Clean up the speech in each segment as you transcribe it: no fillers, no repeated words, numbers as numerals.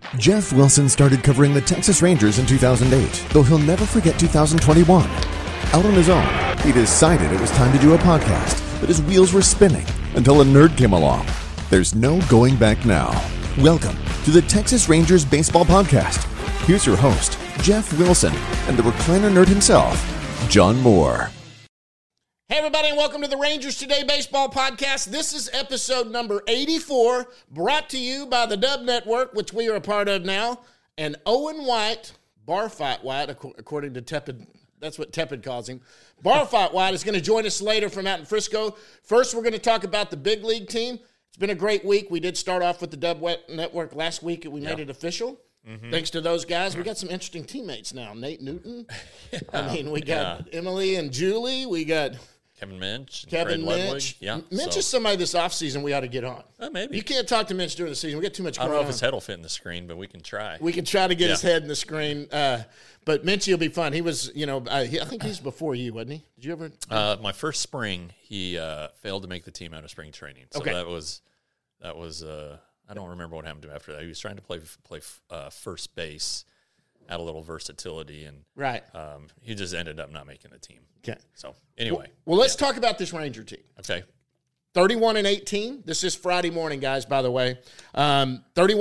Jeff Wilson started covering the Texas Rangers in 2008, though he'll never forget 2021. Out on his own, he decided it was time to do a podcast, but his wheels were spinning until a nerd came along. There's no going back now. Welcome to the Texas Rangers Baseball Podcast. Here's your host, Jeff Wilson, and the recliner nerd himself, John Moore. Hey, everybody, and welcome to the Rangers Today Baseball Podcast. This is episode number 84, brought to you by the Dub Network, which we are a part of now, and Owen White, Barfight White, according to Tepid. That's what Tepid calls him. Barfight White is going to join us later from out in Frisco. First, we're going to talk about the big league team. It's been a great week. We did start off with the Dub Network last week, and we made it official. Mm-hmm. Thanks to those guys. We got some interesting teammates now. Nate Newton. We got Emily and Julie. We got Kevin Minch. Kevin Minch. Yeah, Minch is somebody this offseason we ought to get on. Maybe. You can't talk to Minch during the season. We got too much going on. I don't know if his head will fit in the screen, but we can try. We can try to get his head in the screen. But Minchie will be fun. He was, I think he's before you, wasn't he? Did you ever? My first spring, he failed to make the team out of spring training. So that was. I don't remember what happened to him after that. He was trying to play first base, had a little versatility, and he just ended up not making the team. Okay. So anyway, well, let's talk about this Ranger team. Okay. 31-18. This is Friday morning, guys. By the way, 31-18,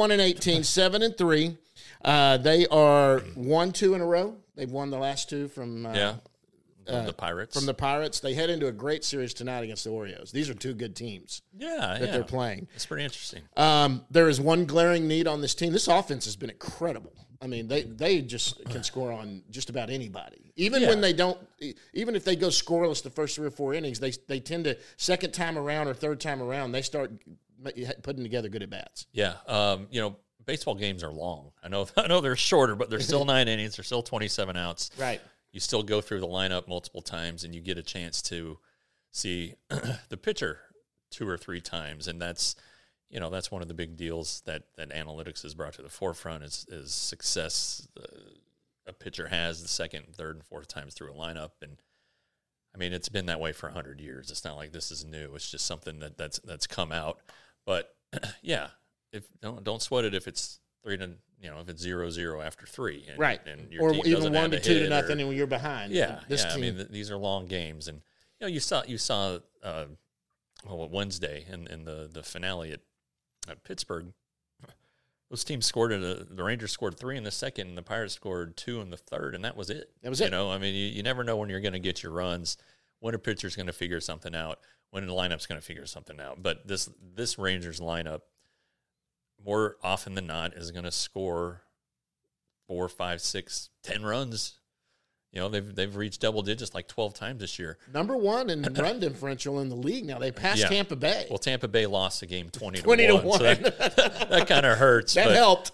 7-3. They are 1-2 in a row. They've won the last two from the Pirates. From the Pirates. They head into a great series tonight against the Orioles. These are two good teams that they're playing. It's pretty interesting. There is one glaring need on this team. This offense has been incredible. I mean, they just can score on just about anybody. Even when they don't, even if they go scoreless the first 3 or 4 innings, they tend to, second time around or third time around, they start putting together good at-bats. Yeah. Baseball games are long. I know they're shorter, but they're still 9 innings. They're still 27 outs. Right. You still go through the lineup multiple times, and you get a chance to see the pitcher 2 or 3 times, and that's one of the big deals that analytics has brought to the forefront is success a pitcher has the second, third, and fourth times through a lineup. And I mean, it's been that way for 100 years. It's not like this is new. It's just something that's come out. But if don't sweat it if it's 3-0, if it's 0-0 after 3, and your or team even 1-2 0 and when you're behind. This team. I mean, these are long games, and you saw Wednesday in the finale at Pittsburgh. Those teams scored the Rangers scored 3 in the second, and the Pirates scored 2 in the third, and that was it. That was it. I mean, you never know when you're going to get your runs, when a pitcher's going to figure something out, when the lineup's going to figure something out. But this Rangers lineup, more often than not, is going to score 4, 5, 6, 10 runs. They've reached double digits like 12 times this year. Number 1 in run differential in the league now. They passed Tampa Bay. Well, Tampa Bay lost the game 20-1. So that kind of hurts. That helped.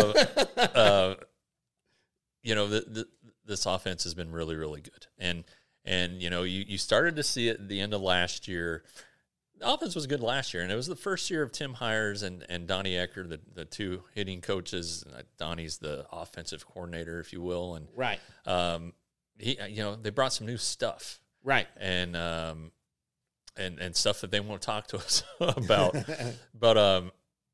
This offense has been really, really good. And you started to see it at the end of last year. The offense was good last year, and it was the first year of Tim Hires and Donnie Ecker, the two hitting coaches. Donnie's the offensive coordinator, if you will. And they brought some new stuff, right? And stuff that they won't talk to us about. But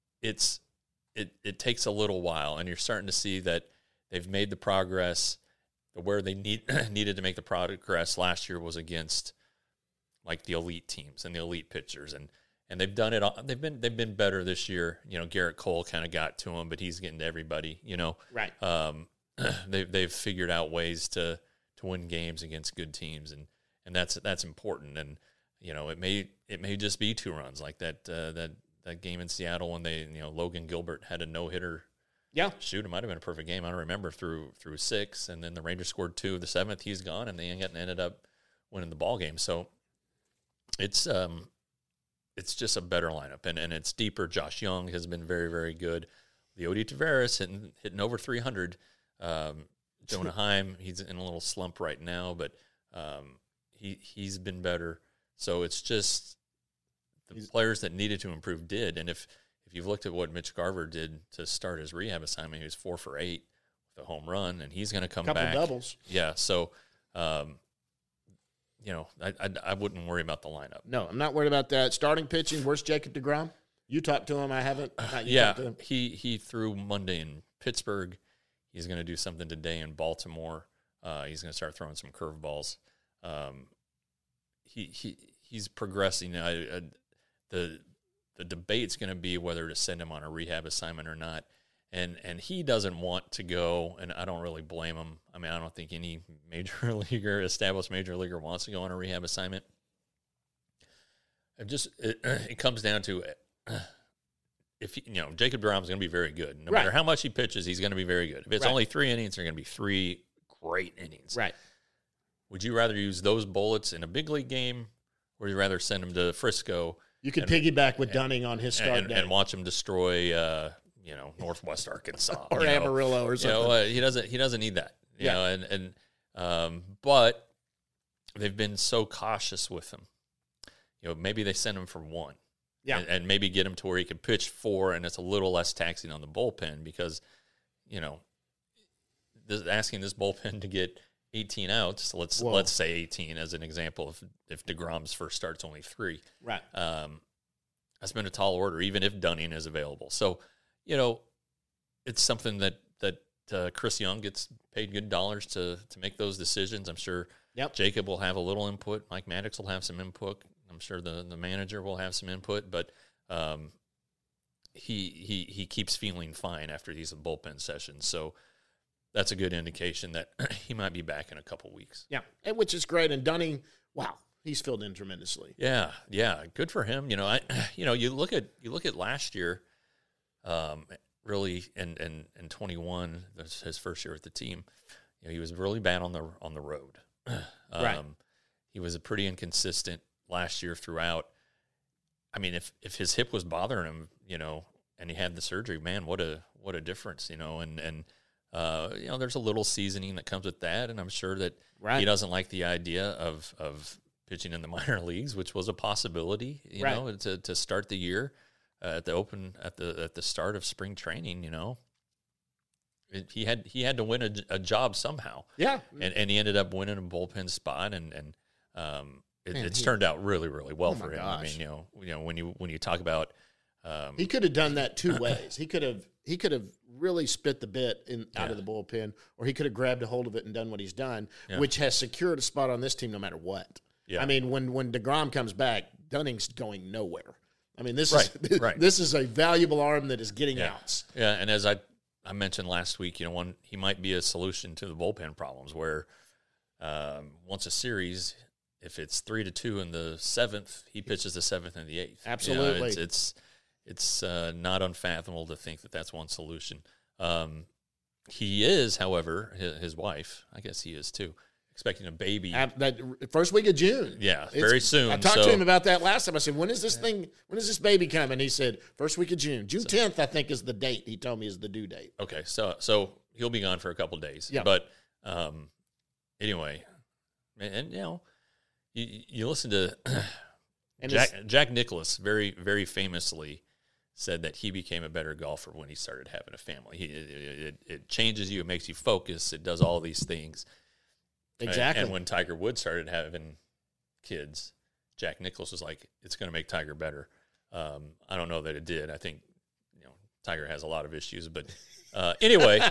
it takes a little while, and you're starting to see that they've made the progress. Where they needed to make the progress last year was against like the elite teams and the elite pitchers, and they've done it all. They've been better this year. Garrett Cole kind of got to him, but he's getting to everybody. Right. They've figured out ways to win games against good teams, and that's important. And it may just be 2 runs like that game in Seattle when they Logan Gilbert had a no-hitter. Yeah, shoot, it might have been a perfect game. I don't remember through 6, and then the Rangers scored 2. The 7th, he's gone, and they ended up winning the ball game. So it's just a better lineup, and it's deeper. Josh Young has been very, very good. Leody Taveras hitting over 300. Jonah Heim, he's in a little slump right now, but he's been better. So it's just the players that needed to improve did. And if you've looked at what Mitch Garver did to start his rehab assignment, he was 4 for 8 with a home run, and he's going to come back. Couple doubles. Yeah, so I wouldn't worry about the lineup. No, I'm not worried about that. Starting pitching, where's Jacob deGrom? You talked to him? I haven't. Yeah, he threw Monday in Pittsburgh. He's going to do something today in Baltimore. He's going to start throwing some curveballs. He's progressing. The debate's going to be whether to send him on a rehab assignment or not. And he doesn't want to go, and I don't really blame him. I mean, I don't think any established major leaguer wants to go on a rehab assignment. It comes down to if Jacob DeGrom's going to be very good. No matter how much he pitches, he's going to be very good. If it's only 3 innings, they're going to be 3 great innings. Right. Would you rather use those bullets in a big league game, or would you rather send him to Frisco? You could piggyback with Dunning on his start day and watch him destroy, Northwest Arkansas or Amarillo or something. He doesn't need that. But they've been so cautious with him. Maybe they send him for 1. Yeah. And maybe get him to where he can pitch 4, and it's a little less taxing on the bullpen because, asking this bullpen to get 18 outs, let's say 18 as an example, if DeGrom's first start's only 3. Right. That's been a tall order, even if Dunning is available. So, it's something that Chris Young gets paid good dollars to make those decisions. I'm sure Jacob will have a little input. Mike Maddox will have some input. I'm sure the manager will have some input, but he keeps feeling fine after these bullpen sessions. So that's a good indication that he might be back in a couple weeks. Yeah, and which is great. And Dunning, wow, he's filled in tremendously. Yeah, good for him. You look at last year, really, in 21, that's his first year with the team. He was really bad on the road. Right. He was pretty inconsistent last year throughout. I mean, if his hip was bothering him, and he had the surgery, man, what a difference, and there's a little seasoning that comes with that, and I'm sure that he doesn't like the idea of pitching in the minor leagues, which was a possibility, to start the year at the start of spring training. He had to win a job somehow. Yeah, and he ended up winning a bullpen spot, and it's turned out really, really well for him. Gosh. I mean, when you talk about he could have done that 2 ways. He could have really spit the bit out of the bullpen, or he could have grabbed a hold of it and done what he's done, which has secured a spot on this team no matter what. Yeah. I mean, when DeGrom comes back, Dunning's going nowhere. I mean, this is a valuable arm that is getting outs. Yeah, and as I mentioned last week, he might be a solution to the bullpen problems where once a series, if it's 3-2 in the 7th, he pitches the 7th and the 8th. Absolutely. It's not unfathomable to think that that's one solution. He is, however, his wife, I guess he is too, expecting a baby. That first week of June. Yeah, very soon. I talked to him about that last time. I said, when is this baby coming? He said, first week of June. June 10th, I think, is the date. He told me is the due date. Okay, so he'll be gone for a couple of days. Yeah. But anyway, and you listen to Jack Nicklaus very, very famously said that he became a better golfer when he started having a family. It changes you. It makes you focus. It does all these things. Exactly. And when Tiger Woods started having kids, Jack Nicklaus was like, it's going to make Tiger better. I don't know that it did. I think, Tiger has a lot of issues, but anyway,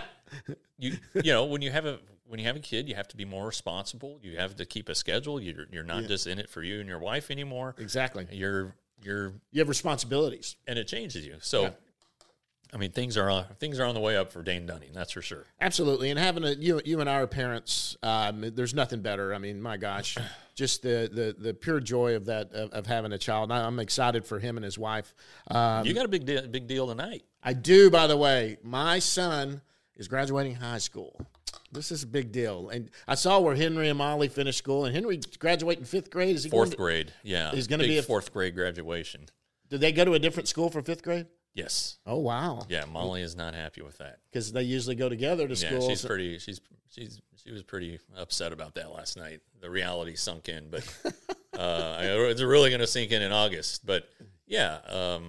when you have a kid, you have to be more responsible. You have to keep a schedule. You're not just in it for you and your wife anymore. Exactly. You have responsibilities, and it changes you. So, I mean, things are on the way up for Dane Dunning. That's for sure. Absolutely, and having you and I are parents. There's nothing better. I mean, my gosh, just the pure joy of that of having a child. I'm excited for him and his wife. You got a big deal tonight. I do. By the way, my son is graduating high school. This is a big deal. And I saw where Henry and Molly finished school, and Henry graduating 5th grade. Is he fourth grade? Yeah, he's going to be a 4th grade graduation. Did they go to a different school for 5th grade? Yes. Oh wow. Yeah, Molly is not happy with that because they usually go together to school. Yeah, she was pretty upset about that last night. The reality sunk in, but it's really going to sink in August. But yeah.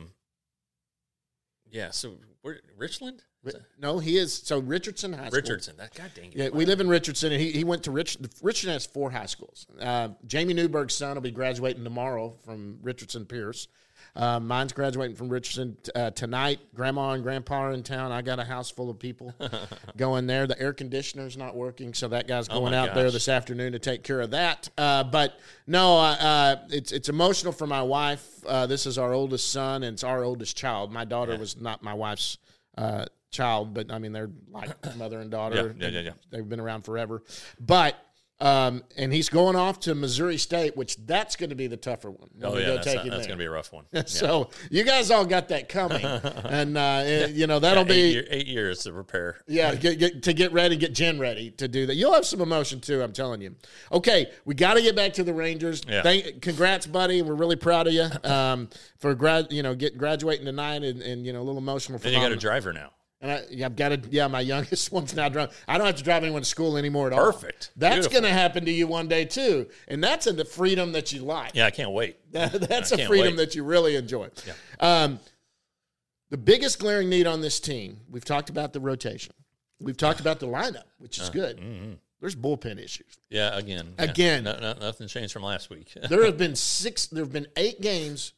So Richland. No, he is. So Richardson High School. Richardson. That God dang it. Yeah, we live in Richardson, and he went to Richardson has 4 high schools. Jamie Newberg's son will be graduating tomorrow from Richardson Pierce. Mine's graduating from Richardson tonight. Grandma and Grandpa are in town. I got a house full of people going there. The air conditioner's not working, so that guy's going out there this afternoon to take care of that. But no, it's emotional for my wife. This is our oldest son, and it's our oldest child. My daughter was not my wife's child, but I mean, they're like mother and daughter. Yeah. They've been around forever. But and he's going off to Missouri State, which that's going to be the tougher one. That's going to be a rough one. So you guys all got that coming, and that'll be 8 years to prepare. Yeah, get ready, get Jen ready to do that. You'll have some emotion too, I'm telling you. Okay, we got to get back to the Rangers. Yeah. Congrats, buddy. We're really proud of you for graduating tonight, and a little emotional. And you got a driver now. And I've got to, my youngest one's now driving. I don't have to drive anyone to school anymore at all. Perfect. That's going to happen to you one day, too. And that's the freedom that you like. Yeah, I can't wait. That's a freedom that you really enjoy. Yeah. The biggest glaring need on this team, we've talked about the rotation. We've talked about the lineup, which is good. Mm-hmm. There's bullpen issues. Yeah, again. Nothing changed from last week. There have been 8 games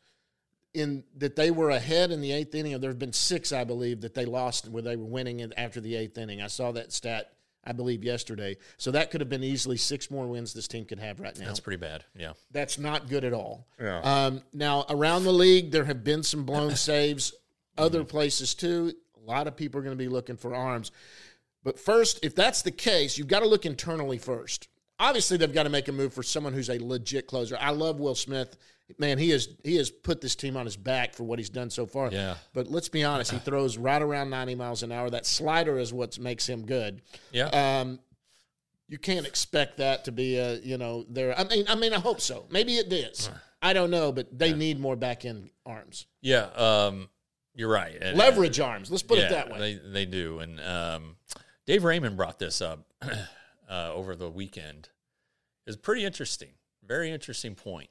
that they were ahead in the 8th inning. There have been 6, I believe, that they lost where they were winning after the 8th inning. I saw that stat, I believe, yesterday. So that could have been easily 6 more wins this team could have right now. That's pretty bad, yeah. That's not good at all. Yeah. Now, around the league, there have been some blown saves. Other places, too. A lot of people are going to be looking for arms. But first, if that's the case, you've got to look internally first. Obviously, they've got to make a move for someone who's a legit closer. I love Will Smith. Man, he has put this team on his back for what he's done so far. Yeah. But let's be honest, he throws right around 90 miles an hour. That slider is what makes him good. Yeah. You can't expect that to be there. I mean, I hope so. Maybe it is. I don't know, but they need more back end arms. Yeah. You're right. Leverage arms. Let's put it that way. They do. And Dave Raymond brought this up over the weekend. It's pretty interesting. Very interesting point.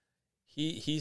He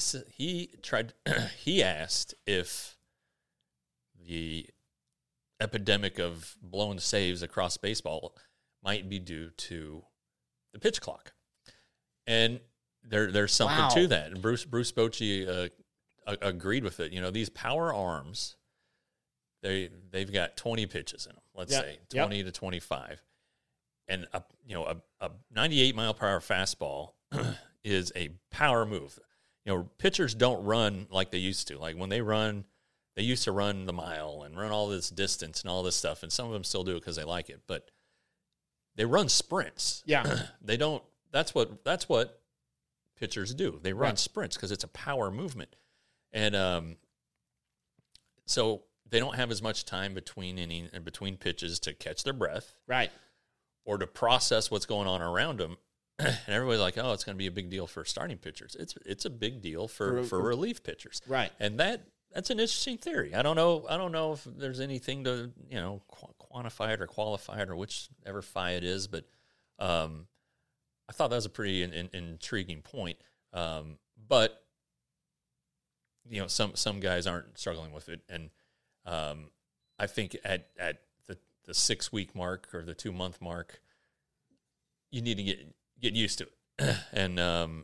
asked if the epidemic of blown saves across baseball might be due to the pitch clock, and there's something to that. And Bruce Bochy agreed with it. These power arms, they've got 20 pitches in them. Let's say 20 to 25, and a 98 mile per hour fastball is a power move. Pitchers don't run like they used to. Like when they run, they used to run the mile and run all this distance and all this stuff, and some of them still do it because they like it. But they run sprints. Yeah, they don't. That's what pitchers do. They run sprints because it's a power movement, and so they don't have as much time between pitches to catch their breath, right, or to process what's going on around them. And everybody's like, "Oh, it's going to be a big deal for starting pitchers." It's a big deal for relief pitchers, right? And that's an interesting theory. I don't know if there's anything to quantify it or qualify it or whichever phi it is, but I thought that was a pretty intriguing point. But some guys aren't struggling with it, and I think at the 6 week mark or the 2 month mark, you need to get used to it. And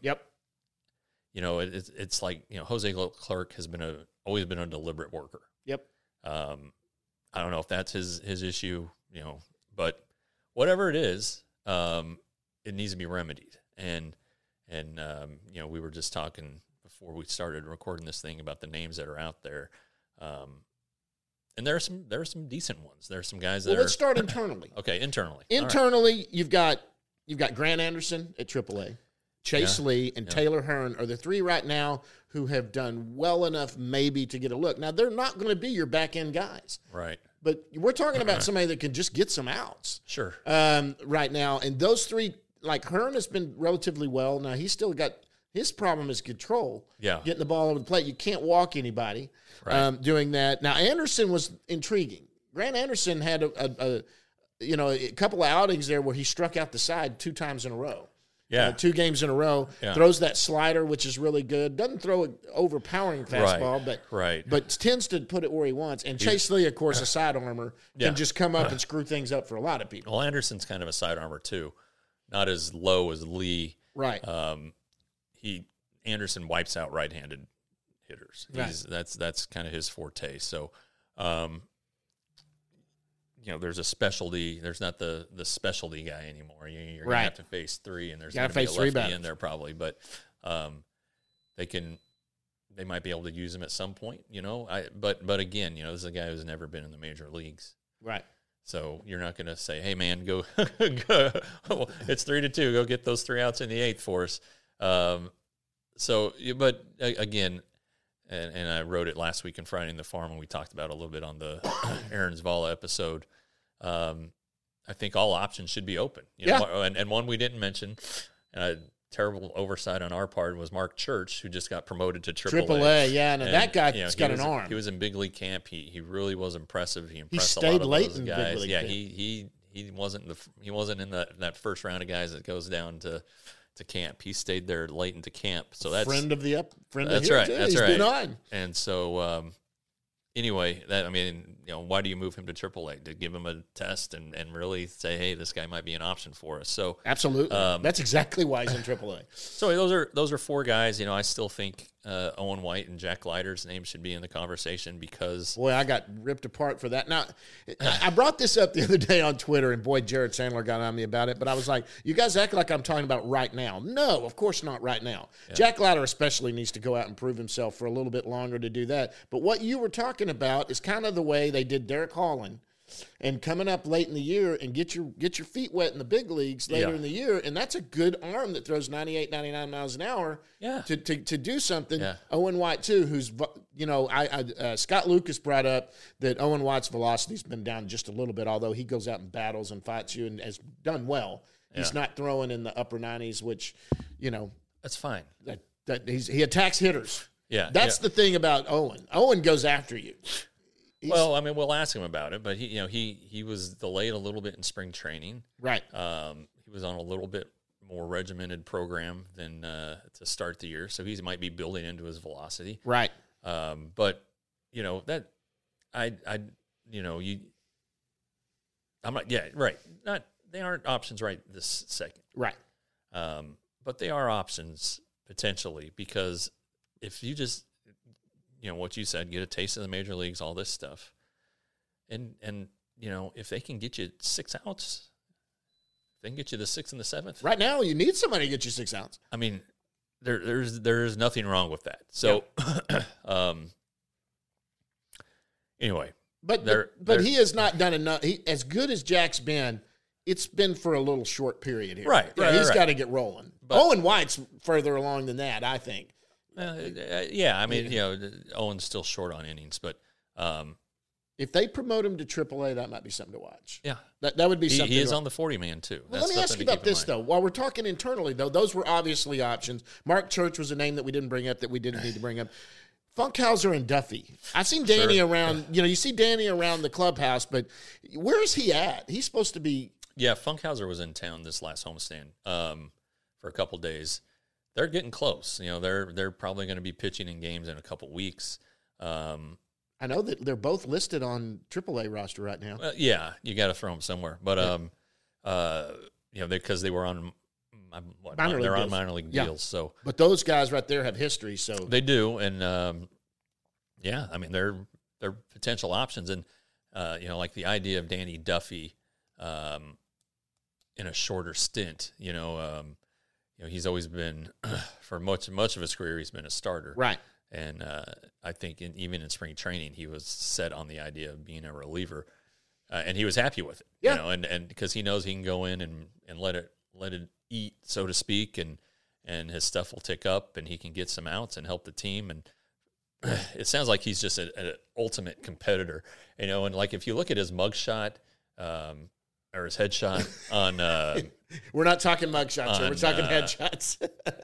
it's like Jose Clark has always been a deliberate worker. Yep. I don't know if that's his issue, but whatever it is, it needs to be remedied. And we were just talking before we started recording this thing about the names that are out there. And there are some decent ones. There are some guys that let's start internally. Okay, internally. Internally, right. You've got Grant Anderson at AAA, Chase Lee, and Taylor Hearn are the 3 right now who have done well enough maybe to get a look. Now, they're not going to be your back-end guys. Right. But we're talking about somebody that can just get some outs. Sure. Right now. And those 3, like Hearn has been relatively well. Now, he's still got – his problem is control. Yeah. Getting the ball over the plate. You can't walk anybody doing that. Now, Anderson was intriguing. Grant Anderson had a couple of outings there where he struck out the side 2 times in a row. Yeah. 2 games in a row. Yeah. Throws that slider, which is really good. Doesn't throw an overpowering fastball, but tends to put it where he wants. And Chase Lee, of course, a side armor, can just come up and screw things up for a lot of people. Well, Anderson's kind of a side armor, too. Not as low as Lee. Right. Anderson wipes out right-handed hitters. Right. That's kind of his forte. So, there's a specialty. There's not the specialty guy anymore. You're going to have to face three, and there's going to be a lefty in there probably. But they might be able to use him at some point. But again, this is a guy who's never been in the major leagues. Right. So you're not going to say, "Hey, man, go, it's 3-2. Go get those 3 outs in the 8th for us." But again, and I wrote it last week in Friday in the Farm, and we talked about it a little bit on the Aaron Zavala episode. I think all options should be open. And one we didn't mention, terrible oversight on our part, was Mark Church, who just got promoted to AAA. Yeah, and that guy's got an arm. He was in big league camp. He really was impressive. He impressed stayed a lot of late those in guys. big league Yeah, camp. he wasn't in that first round of guys that goes down to camp. He stayed there late into camp. So that's friend of right. That's He's right. been on. And so anyway, why do you move him to AAA? To give him a test and really say, hey, this guy might be an option for us. So absolutely, that's exactly why he's in AAA. So those are 4 guys. I still think Owen White and Jack Leiter's names should be in the conversation because boy, I got ripped apart for that. Now, I brought this up the other day on Twitter, and boy, Jared Sandler got on me about it. But I was like, you guys act like I'm talking about right now. No, of course not right now. Yeah. Jack Leiter especially needs to go out and prove himself for a little bit longer to do that. But what you were talking about is kind of the way they did Derek Holland, and coming up late in the year and get your feet wet in the big leagues later in the year, and that's a good arm that throws 98, 99 miles an hour to do something. Yeah. Owen White too, who's Scott Lucas brought up that Owen White's velocity's been down just a little bit, although he goes out and battles and fights you and has done well. Yeah. He's not throwing in the upper 90s, which that's fine. He attacks hitters. Yeah, that's the thing about Owen. Owen goes after you. We'll ask him about it, but he was delayed a little bit in spring training. Right. He was on a little bit more regimented program than to start the year, so he might be building into his velocity. Right. But that I'm not. Yeah. Right. They aren't options right this second. Right. But they are options potentially, because if you just what you said, get a taste of the major leagues, all this stuff. And if they can get you 6 outs, they can get you the 6th and the 7th. Right now, you need somebody to get you 6 outs. I mean, there's nothing wrong with that. So, anyway. But he has not done enough. As good as Jack's been, it's been for a little short period here. Right. He's got to get rolling. But Owen White's further along than that, I think. Owen's still short on innings, but if they promote him to AAA, that might be something to watch. Yeah, that would be something. He is on the 40-man too. Well, let me ask you about this though. While we're talking internally, though, those were obviously options. Mark Church was a name that we didn't bring up that we didn't need to bring up. Funkhauser and Duffy. I've seen Danny around. You see Danny around the clubhouse, but where is he at? He's supposed to be. Yeah, Funkhauser was in town this last homestand for a couple days. They're getting close. They're probably going to be pitching in games in a couple weeks. I know that they're both listed on AAA roster right now. You got to throw them somewhere. But because they were on minor league deals. So, but those guys right there have history. So they do, and they're potential options. And like the idea of Danny Duffy in a shorter stint. He's always been, for much of his career, he's been a starter. Right. And I think even in spring training, he was set on the idea of being a reliever. And he was happy with it. Yeah. And because he knows he can go in and let it eat, so to speak, and his stuff will tick up and he can get some outs and help the team. And it sounds like he's just an ultimate competitor. And like if you look at his mugshot, or his headshot on we're not talking mugshots here. We're talking headshots.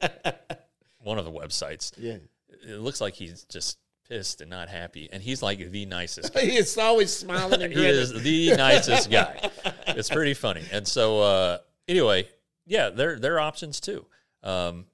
One of the websites. Yeah. It looks like he's just pissed and not happy. And he's like the nicest guy. He is always smiling and grinning. He is the nicest guy. It's pretty funny. And so anyway, yeah, they're options too. And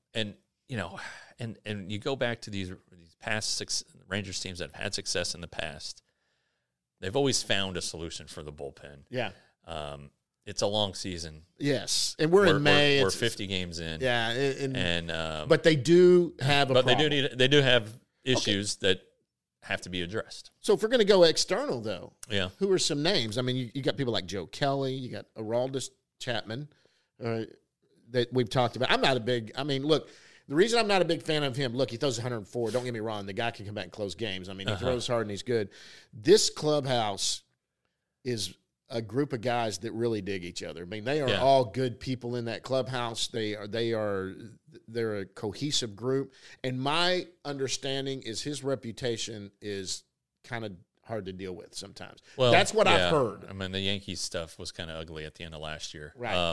you go back to these past Rangers teams that have had success in the past. They've always found a solution for the bullpen. Yeah. It's a long season. Yes, and we're in May. We're 50 games in. Yeah, and but they do have a. But problem. they do have issues that have to be addressed. So if we're going to go external, though, Yeah. who are some names? I mean, you got people like Joe Kelly, you got Aroldis Chapman that we've talked about. I'm not a big – I mean, look, the reason I'm not a big fan of him, look, he throws 104. Don't get me wrong. The guy can come back and close games. I mean, he throws hard and he's good. This clubhouse is a group of guys that really dig each other. I mean, they are all good people in that clubhouse. They're a cohesive group. And my understanding is his reputation is kind of hard to deal with sometimes. Well, that's what I've heard. I mean, the Yankees stuff was kind of ugly at the end of last year. Right.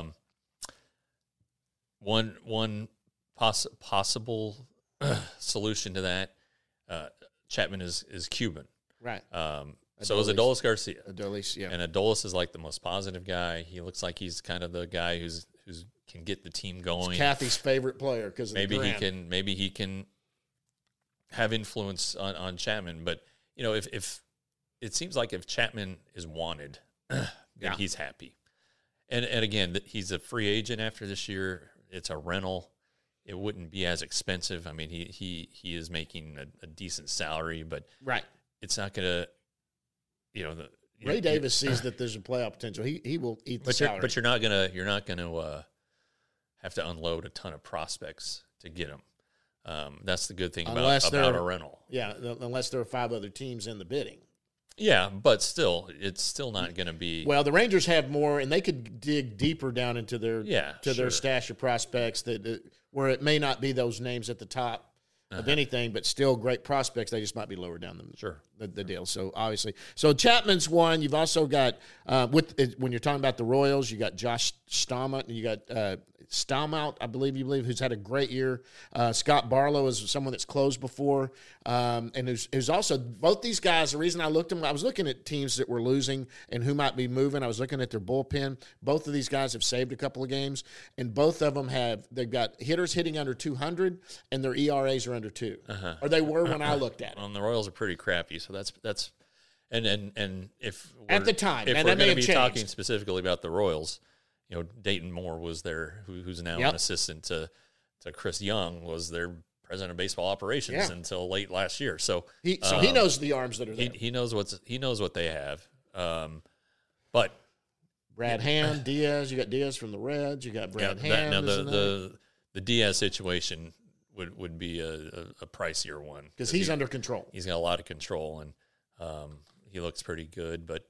One possible solution to that, Chapman is Cuban. Right. So is Adolis Garcia. Adolis, yeah. And Adolis is like the most positive guy. He looks like he's kind of the guy who's can get the team going. It's Kathy's favorite player because maybe he can have influence on Chapman. But if it seems like if Chapman is wanted, then he's happy. And again, he's a free agent after this year. It's a rental. It wouldn't be as expensive. I mean, he is making a decent salary, but it's not going to. Ray Davis sees that there's a playoff potential. He will eat the salary. But you're not gonna have to unload a ton of prospects to get them. That's the good thing about a rental. Yeah, unless there are 5 other teams in the bidding. Yeah, but still, it's still not going to be. Well, the Rangers have more, and they could dig deeper down into their their stash of prospects where it may not be those names at the top of anything, but still great prospects. They just might be lower down the deal. So obviously, Chapman's one. You've also got when you're talking about the Royals, you got Josh Staumont, and you got Staumont, I believe, who's had a great year. Scott Barlow is someone that's closed before, and who's also both these guys. The reason I looked at them, I was looking at teams that were losing and who might be moving. I was looking at their bullpen. Both of these guys have saved a couple of games, and both of them they've got hitters hitting under 200, and their ERAs are under 2, or they were when I looked at it. Well, the Royals are pretty crappy, so that's and if at the time, if and we're that may going have to be changed. talking specifically about the Royals, Dayton Moore was there, who's now an assistant to Chris Young, was their president of baseball operations until late last year. So he knows the arms that are there. He knows what they have. But Brad Hand, Diaz, you got Diaz from the Reds, you got Brad Hand. Now the Diaz situation would be a pricier one because he's under control. He's got a lot of control, and he looks pretty good. But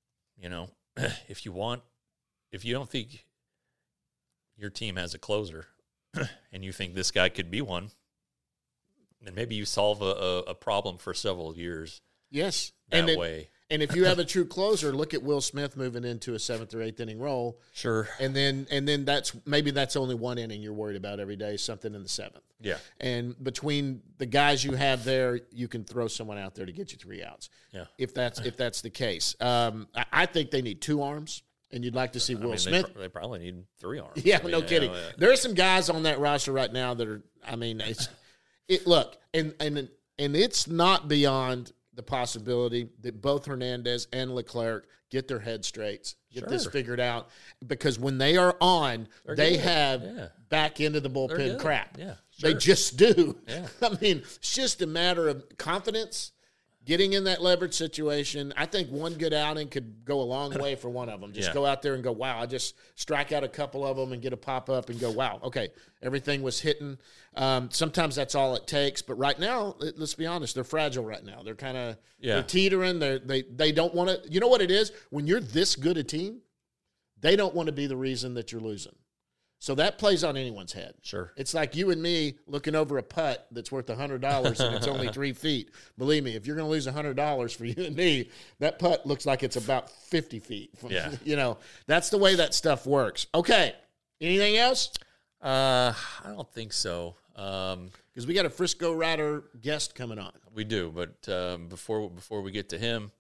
if you don't think your team has a closer, and you think this guy could be one, then maybe you solve a problem for several years. Yes, that way. And if you have a true closer, look at Will Smith moving into a 7th or 8th inning role. Sure. And then that's only one inning you're worried about every day, something in the 7th. Yeah. And between the guys you have there, you can throw someone out there to get you 3 outs. Yeah. If that's the case. I think they need 2 arms. And you'd like to see Will Smith. They probably need 3 arms. Yeah, no kidding. There are some guys on that roster right now that are. I mean, look, and it's not beyond the possibility that both Hernandez and Leclerc get their head straight, get this figured out, because when they are on, they have back into the bullpen crap. Yeah, they just do. Yeah. I mean, it's just a matter of confidence. Getting in that leverage situation, I think one good outing could go a long way for one of them. Just go out there and go, wow, I just strike out a couple of them and get a pop-up and go, wow, okay, everything was hitting. Sometimes that's all it takes. But right now, let's be honest, they're fragile right now. They're kind of they're teetering. They don't want to – you know what it is? When you're this good a team, they don't want to be the reason that you're losing. So that plays on anyone's head. Sure. It's like you and me looking over a putt that's worth $100 and it's only 3 feet. Believe me, if you're going to lose $100 for you and me, that putt looks like it's about 50 feet. That's the way that stuff works. Okay. Anything else? I don't think so. Because we got a Frisco Rider guest coming on. We do, but before we get to him,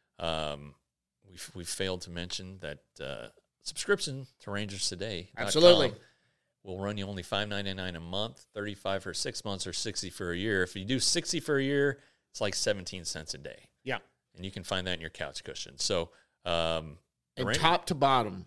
we failed to mention that subscription to Rangers Today. Absolutely. Will run you only $5.99 a month, $35 for 6 months, or $60 for a year. If you do $60 for a year, it's like 17 cents a day. Yeah. And you can find that in your couch cushion. So, top to bottom,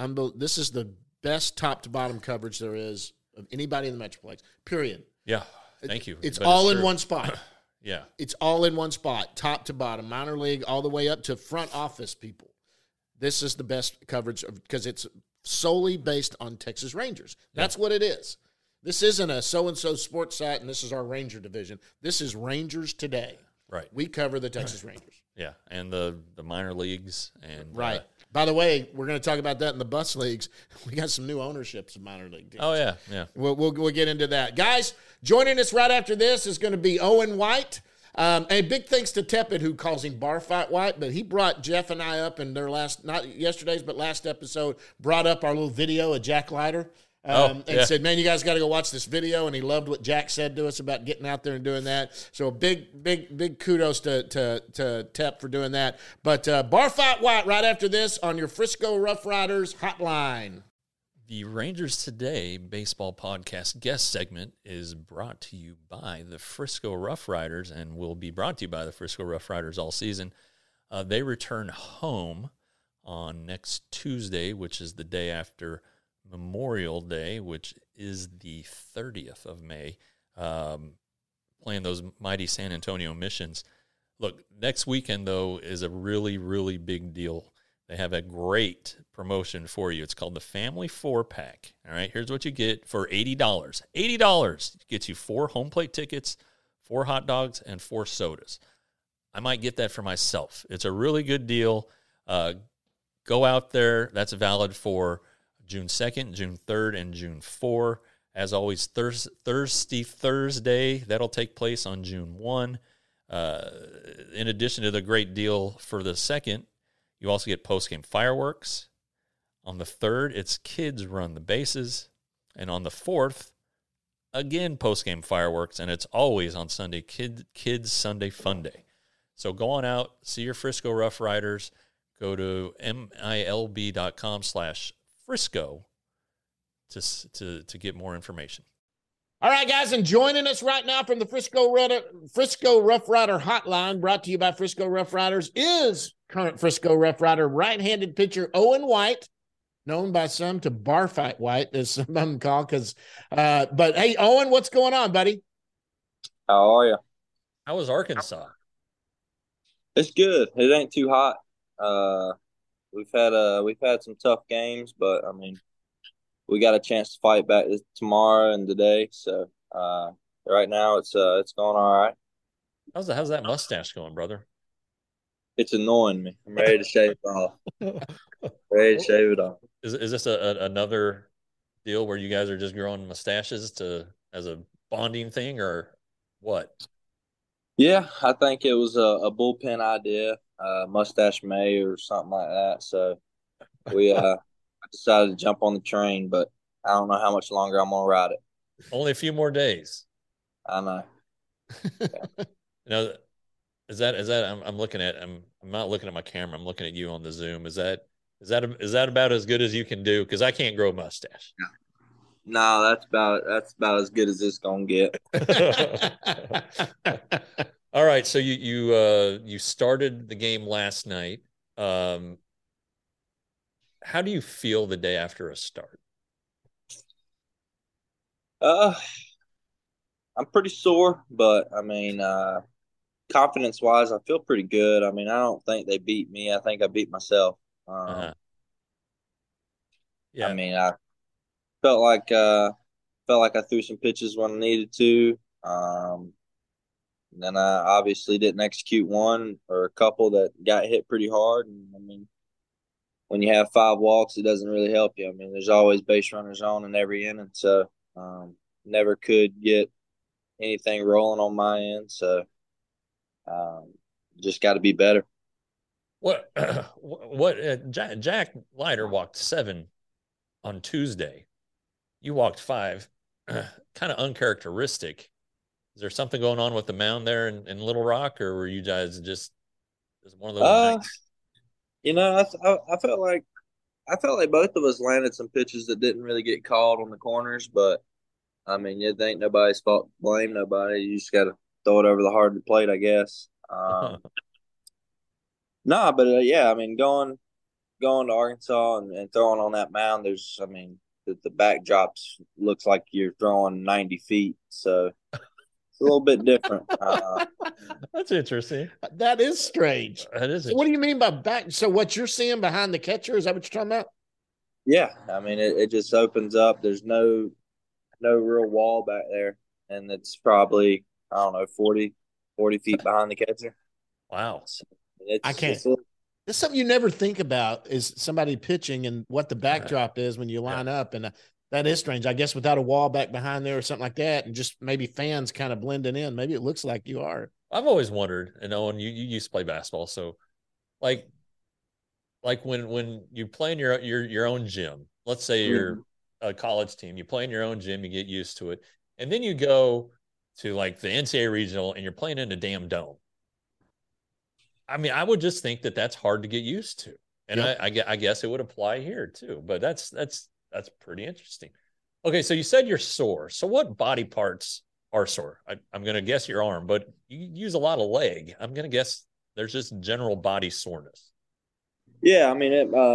this is the best top to bottom coverage there is of anybody in the Metroplex, period. Yeah. Thank you. It's But all in true. one spot. Yeah. It's all in one spot, top to bottom, minor league, all the way up to front office people. This is the best coverage because it's solely based on Texas Rangers. That's what it is. This isn't a so-and-so sports site, and this is our Ranger division. This is Rangers Today. Right. We cover the Texas Rangers. Yeah, and the minor leagues and Right. By the way, we're going to talk about that in the bus leagues. We got some new ownerships of minor league teams. Oh yeah. We'll get into that. Guys, joining us right after this is going to be Owen White. And big thanks to Tepid, who calls him Bar Fight White, but he brought Jeff and I up in their not yesterday's, but last episode, brought up our little video of Jack Leiter. And said, man, you guys got to go watch this video. And he loved what Jack said to us about getting out there and doing that. So big kudos to Tep for doing that. But Bar Fight White right after this on your Frisco Rough Riders hotline. The Rangers Today baseball podcast guest segment is brought to you by the Frisco Rough Riders and will be brought to you by the Frisco Rough Riders all season. They return home on next Tuesday, which is the day after Memorial Day, which is the 30th of May, playing those mighty San Antonio Missions. Look, next weekend, though, is a really, really big deal. They have a great promotion for you. It's called the Family 4-Pack. All right, here's what you get for $80. $80 gets you 4 home plate tickets, 4 hot dogs, and 4 sodas. I might get that for myself. It's a really good deal. Go out there. That's valid for June 2nd, June 3rd, and June 4th. As always, Thursday, that'll take place on June 1. In addition to the great deal for the 2nd, you also get post-game fireworks. On the 3rd, it's Kids Run the Bases. And on the 4th, again, post-game fireworks. And it's always on Sunday, Kids Sunday Fun Day. So go on out, see your Frisco Rough Riders. Go to milb.com/Frisco to get more information. All right, guys, and joining us right now from the Frisco Rough Rider hotline, brought to you by Frisco Rough Riders, is current Frisco Rough Rider right-handed pitcher Owen White, known by some to Bar Fight White, as some of them call. But hey, Owen, what's going on, buddy? How are you? How was Arkansas? It's good. It ain't too hot. We've had some tough games, but I mean, we got a chance to fight back tomorrow and today. So right now it's going all right. How's that mustache going, brother? It's annoying me. I'm ready to shave it off. Ready to shave it off. Is this another deal where you guys are just growing mustaches as a bonding thing, or what? Yeah, I think it was a bullpen idea, Mustache May or something like that. So we decided to jump on the train, but I don't know how much longer I'm gonna ride it. Only a few more days. I know. Is that I'm looking at I'm not looking at my camera. I'm looking at you on the Zoom. Is that about as good as you can do? Because I can't grow a mustache. No, that's about as good as it's gonna get. All right, so you started the game last night. How do you feel the day after a start? I'm pretty sore, but I mean, confidence wise, I feel pretty good. I mean, I don't think they beat me. I think I beat myself. Yeah. I mean, I felt like I threw some pitches when I needed to. Then I obviously didn't execute one or a couple that got hit pretty hard. And I mean, when you have 5 walks, it doesn't really help you. I mean, there's always base runners on in every inning, so never could get anything rolling on my end. So just got to be better. Jack Leiter walked 7 on Tuesday. You walked 5, kind of uncharacteristic. Is there something going on with the mound there in Little Rock, or were you guys just one of those nights? You know, I felt like both of us landed some pitches that didn't really get called on the corners, but I mean, it ain't nobody's fault to blame nobody. You just got to throw it over the hard plate, I guess. No, but yeah, I mean, going to Arkansas and throwing on that mound, the backdrops looks like you're throwing 90 feet. So a little bit different. That's interesting. That is strange. That is So what do you interesting. mean by back? So what you're seeing behind the catcher, is that what you're talking about? Yeah, I mean it just opens up. There's no real wall back there, and it's probably I don't know 40 feet behind the catcher. Wow. So I can't. it's a, It's something you never think about is somebody pitching and what the Uh, backdrop is when you yeah. line up. And that is strange. I guess without a wall back behind there or something like that, and just maybe fans kind of blending in, maybe it looks like you are. I've always wondered, and Owen, you used to play basketball, so like when you play in your own gym, let's say you're a college team, you play in your own gym, you get used to it, and then you go to like the NCAA regional and you're playing in a damn dome. I mean, I would just think that that's hard to get used to, and Yep. I guess it would apply here too. But that's pretty interesting. Okay, so you said you're sore. So what body parts are sore? I'm going to guess your arm, but you use a lot of leg. I'm going to guess there's just general body soreness. yeah. I mean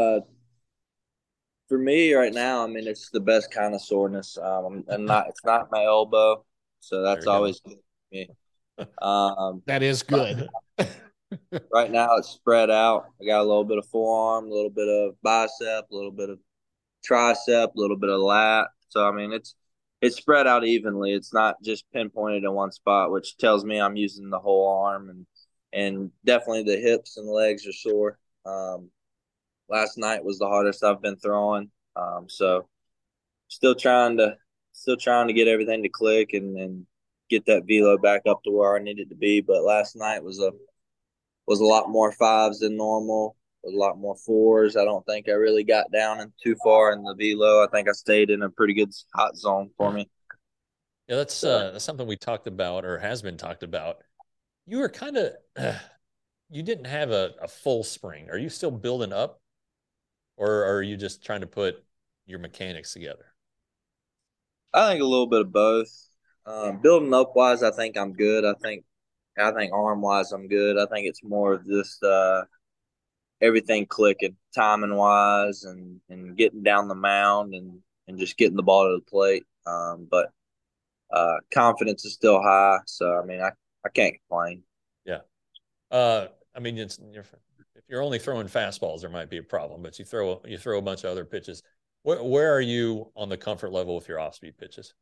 for me right now. I mean it's the best kind of soreness. And not it's not my elbow, so There that's you go. always good for me. Um, That is right, good. right now it's spread out. I got a little bit of forearm, a little bit of bicep, a little bit of tricep, a little bit of lat. So I mean it's spread out evenly. It's not just pinpointed in one spot, which tells me I'm using the whole arm and definitely the hips and legs are sore. Last night was the hardest I've been throwing. So still trying to get everything to click and get that velo back up to where I need it to be. But last night was a lot more fives than normal, a lot more fours. I don't think I really got down and too far in the velo. I think I stayed in a pretty good hot zone for me. Yeah, So, that's something we talked about or has been talked about. You were kind of you didn't have a full spring. Are you still building up, or are you just trying to put your mechanics together? I think a little bit of both. Building up wise, I think I'm good. I think arm wise, I'm good. I think it's more of just everything clicking, timing wise, and getting down the mound and just getting the ball to the plate. But confidence is still high, so I mean, I can't complain. Yeah. I mean, if you're only throwing fastballs, there might be a problem, but you throw a bunch of other pitches. Where are you on the comfort level with your off speed pitches?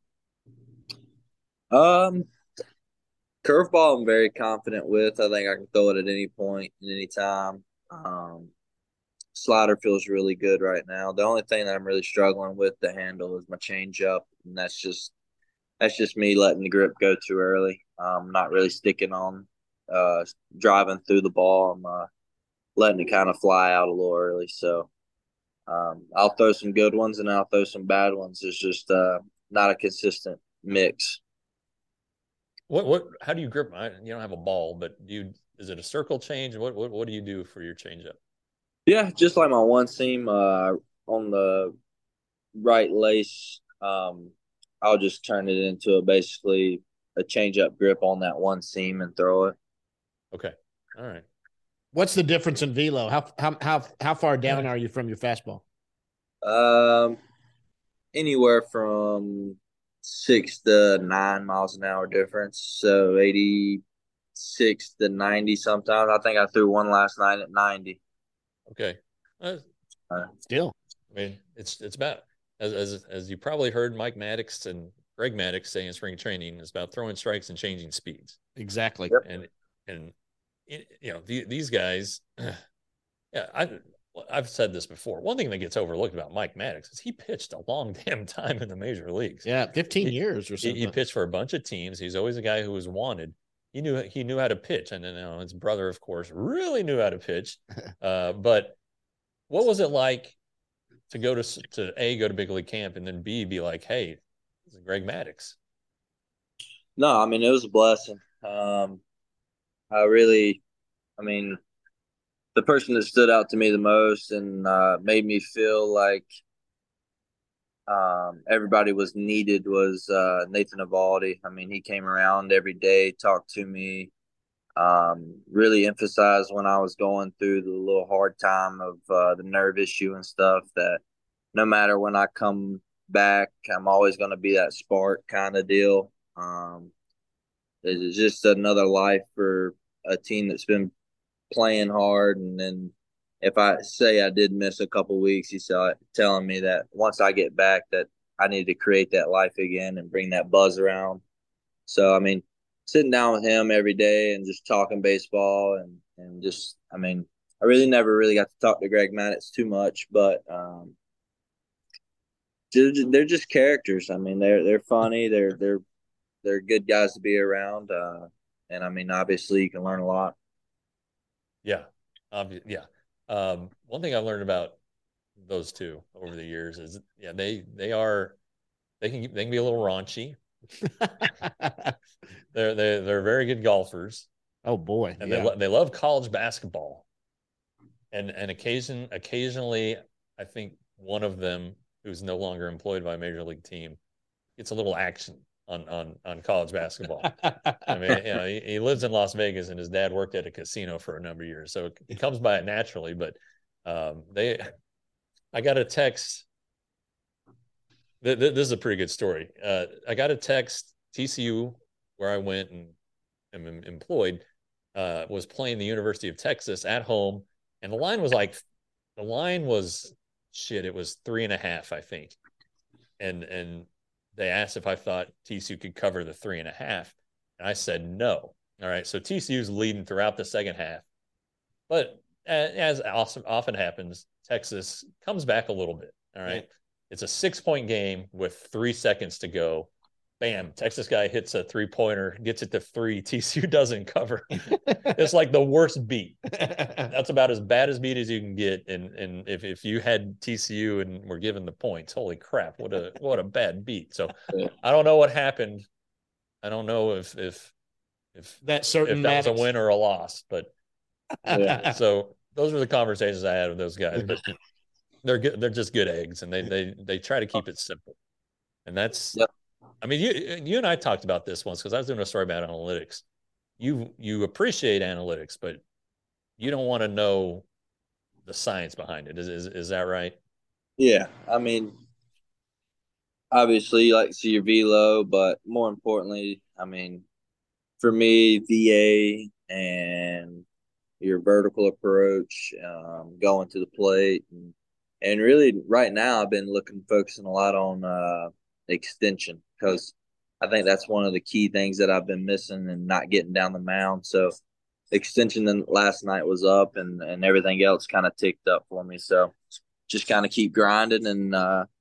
Um, Curveball, I'm very confident with. I think I can throw it at any point and any time. Slider feels really good right now. The only thing that I'm really struggling with to handle is my changeup, and that's just me letting the grip go too early. Not really sticking on, uh, driving through the ball. I'm letting it kind of fly out a little early. So I'll throw some good ones and I'll throw some bad ones. It's just not a consistent mix. How do you grip? You don't have a ball, but is it a circle change? What do you do for your changeup? Yeah, just like my one seam on the right lace, I'll just turn it into basically a change up grip on that one seam and throw it. Okay. All right. What's the difference in velo? How far down are you from your fastball? Um, Anywhere from 6 to 9 miles an hour difference. So 86 to 90 sometimes. I think I threw one last night at 90. Okay. Still. I mean, it's about as you probably heard Mike Maddox and Greg Maddox say in spring training, it's about throwing strikes and changing speeds. Exactly. And these guys, yeah, I've said this before. One thing that gets overlooked about Mike Maddox is he pitched a long damn time in the major leagues. Yeah, 15 years or something. He pitched for a bunch of teams. He's always a guy who was wanted. He knew how to pitch, and then his brother, of course, really knew how to pitch. But what was it like to go to big league camp and then B, be like, hey, this is Greg Maddox? No, I mean, it was a blessing. I mean, the person that stood out to me the most and made me feel like everybody was needed was Nathan Eovaldi. I mean, he came around every day, talked to me, really emphasized when I was going through the little hard time of the nerve issue and stuff that no matter when I come back, I'm always going to be that spark kind of deal. it's just another life for a team that's been playing hard. And then if I say I did miss a couple weeks, he's telling me that once I get back, that I need to create that life again and bring that buzz around. So I mean, sitting down with him every day and just talking baseball and just I mean, I really never really got to talk to Greg Maddux too much, but they're just characters. I mean, they're funny. They're good guys to be around. And I mean, obviously, you can learn a lot. Yeah, yeah. One thing I've learned about those two over the years is, yeah, they can be a little raunchy. They're very good golfers, Oh boy, and yeah. they love college basketball. And occasionally, I think one of them, who's no longer employed by a major league team, gets a little action on college basketball. I mean, you know, he lives in Las Vegas, and his dad worked at a casino for a number of years, so it comes by it naturally. But I got a text. This is a pretty good story. I got a text. TCU, where I went and am employed, was playing the University of Texas at home, and the line was shit. It was 3.5, I think, and they asked if I thought TCU could cover the 3.5, and I said no. All right, so TCU's leading throughout the second half, but as often happens, Texas comes back a little bit. All right, it's a 6-point game with 3 seconds to go. Bam, Texas guy hits a 3-pointer, gets it to 3. TCU doesn't cover. It's like the worst beat. That's about as bad as beat as you can get. And if you had TCU and were given the points, holy crap, what a bad beat. So I don't know what happened. I don't know if that certain that was a Maddux. win or a loss, but so those were the conversations I had with those guys. But they're good. They're just good eggs, and they try to keep it simple. And that's, Yep. I mean, you and I talked about this once because I was doing a story about analytics. You appreciate analytics, but you don't want to know the science behind it. Is that right? Yeah, I mean, obviously, you like to see your velo, but more importantly, I mean, for me, VA and your vertical approach, going to the plate, and really right now I've been focusing a lot on extension because I think that's one of the key things that I've been missing and not getting down the mound. So extension then last night was up and everything else kind of ticked up for me. So just kind of keep grinding and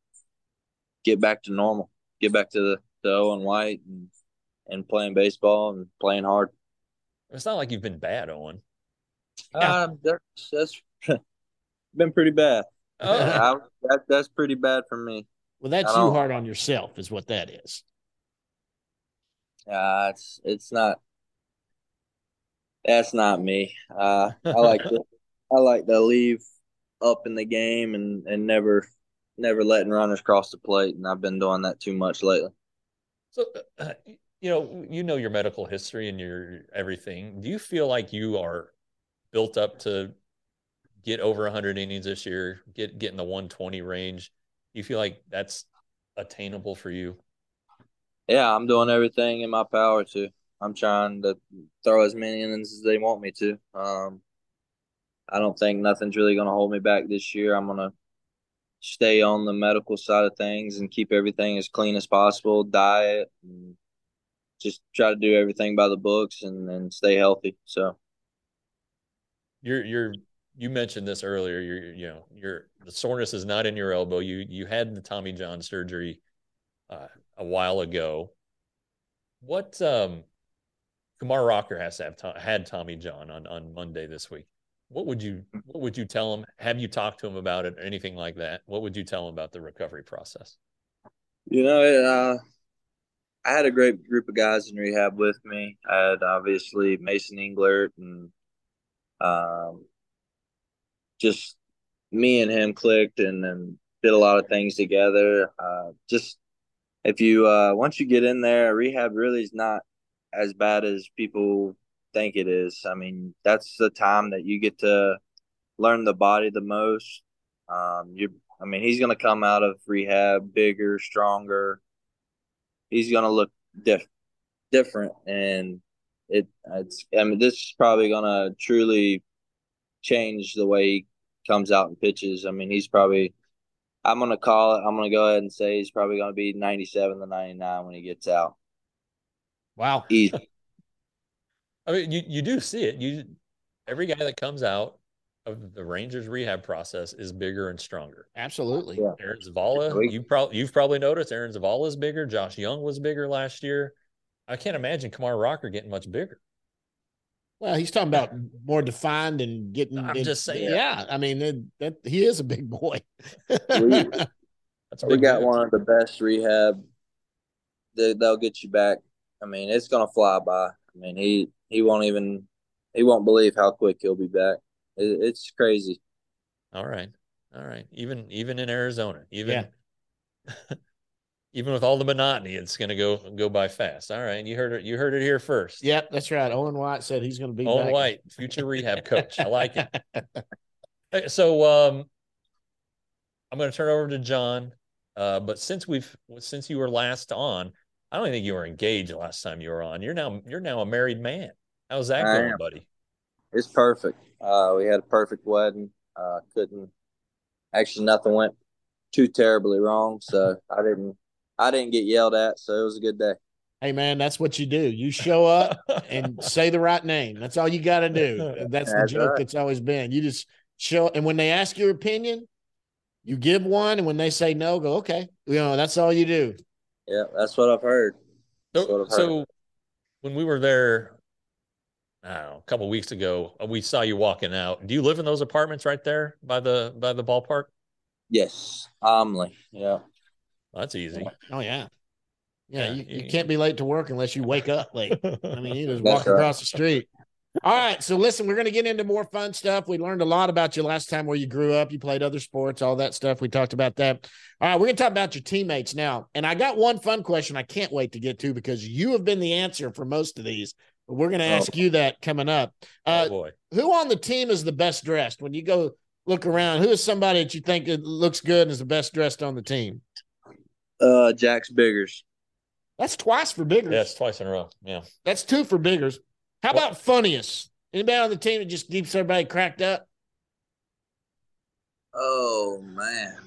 get back to normal, get back to the Owen White and playing baseball and playing hard. It's not like you've been bad, Owen. That's been pretty bad. Oh, That's pretty bad for me. Well, that's you hard on yourself, is what that is. It's not. That's not me. I like to leave up in the game and never letting runners cross the plate, and I've been doing that too much lately. so you know your medical history and your everything. Do you feel like you are built up to get over 100 innings this year, get in the 120 range? Do you feel like that's attainable for you? Yeah, I'm doing everything in my power to. I'm trying to throw as many innings as they want me to. I don't think nothing's really going to hold me back this year. I'm going to stay on the medical side of things and keep everything as clean as possible, diet, and just try to do everything by the books and stay healthy. So You mentioned this earlier. The soreness is not in your elbow. You had the Tommy John surgery a while ago. What Kumar Rocker has to have had Tommy John on Monday this week. What would you tell him? Have you talked to him about it or anything like that? What would you tell him about the recovery process? I had a great group of guys in rehab with me. I had obviously Mason Englert and um, just me and him clicked and did a lot of things together. Just if you once you get in there, rehab really is not as bad as people think it is. I mean, that's the time that you get to learn the body the most. I mean, he's going to come out of rehab bigger, stronger. He's going to look different. different, and it's. I mean, this is probably gonna truly change the way he comes out and pitches. I mean, he's probably. I'm gonna call it. I'm gonna go ahead and say he's probably gonna be 97 to 99 when he gets out. Wow. Easy. I mean, you do see it. Every guy that comes out of the Rangers rehab process is bigger and stronger. Absolutely. Yeah. Aaron Zavala, you've probably noticed Aaron Zavala is bigger. Josh Young was bigger last year. I can't imagine Kumar Rocker getting much bigger. Well, he's talking about more defined and getting. I'm just saying. Yeah, I mean that he is a big boy. We got one of the best rehab. They'll get you back. I mean, it's gonna fly by. I mean, he won't believe how quick he'll be back. It's crazy. All right. Even in Arizona, even with all the monotony, it's going to go by fast. All right, you heard it here first. Yep, that's right. Owen White said he's going to be Owen back. White, future rehab coach. I like it. So I'm going to turn over to John. But since you were last on, I don't think you were engaged last time you were on. You're now a married man. How's that going, buddy? It's perfect. We had a perfect wedding. Nothing went too terribly wrong. So I didn't get yelled at. So it was a good day. Hey man, that's what you do. You show up and say the right name. That's all you got to do. That's the joke right. That's always been. You just show, and when they ask your opinion, you give one, and when they say no, go, okay. That's all you do. Yeah, that's what I've heard. So when we were there, I don't know, a couple of weeks ago, we saw you walking out. Do you live in those apartments right there by the ballpark? Yes, Omley. Yeah. Well, that's easy. Oh yeah. Yeah, you can't be late to work unless you wake up late. I mean, you just walk across the street. All right, so listen, we're going to get into more fun stuff. We learned a lot about you last time, where you grew up, you played other sports, all that stuff. We talked about that. All right, we're going to talk about your teammates now. And I got one fun question I can't wait to get to, because you have been the answer for most of these. But we're going to ask you that coming up. Oh boy. Who on the team is the best dressed? When you go look around, who is somebody that you think looks good and is the best dressed on the team? Jax Biggers. That's twice for Biggers. Yeah, it's twice in a row. Yeah. That's two for Biggers. How about funniest? Anybody on the team that just keeps everybody cracked up? Oh man.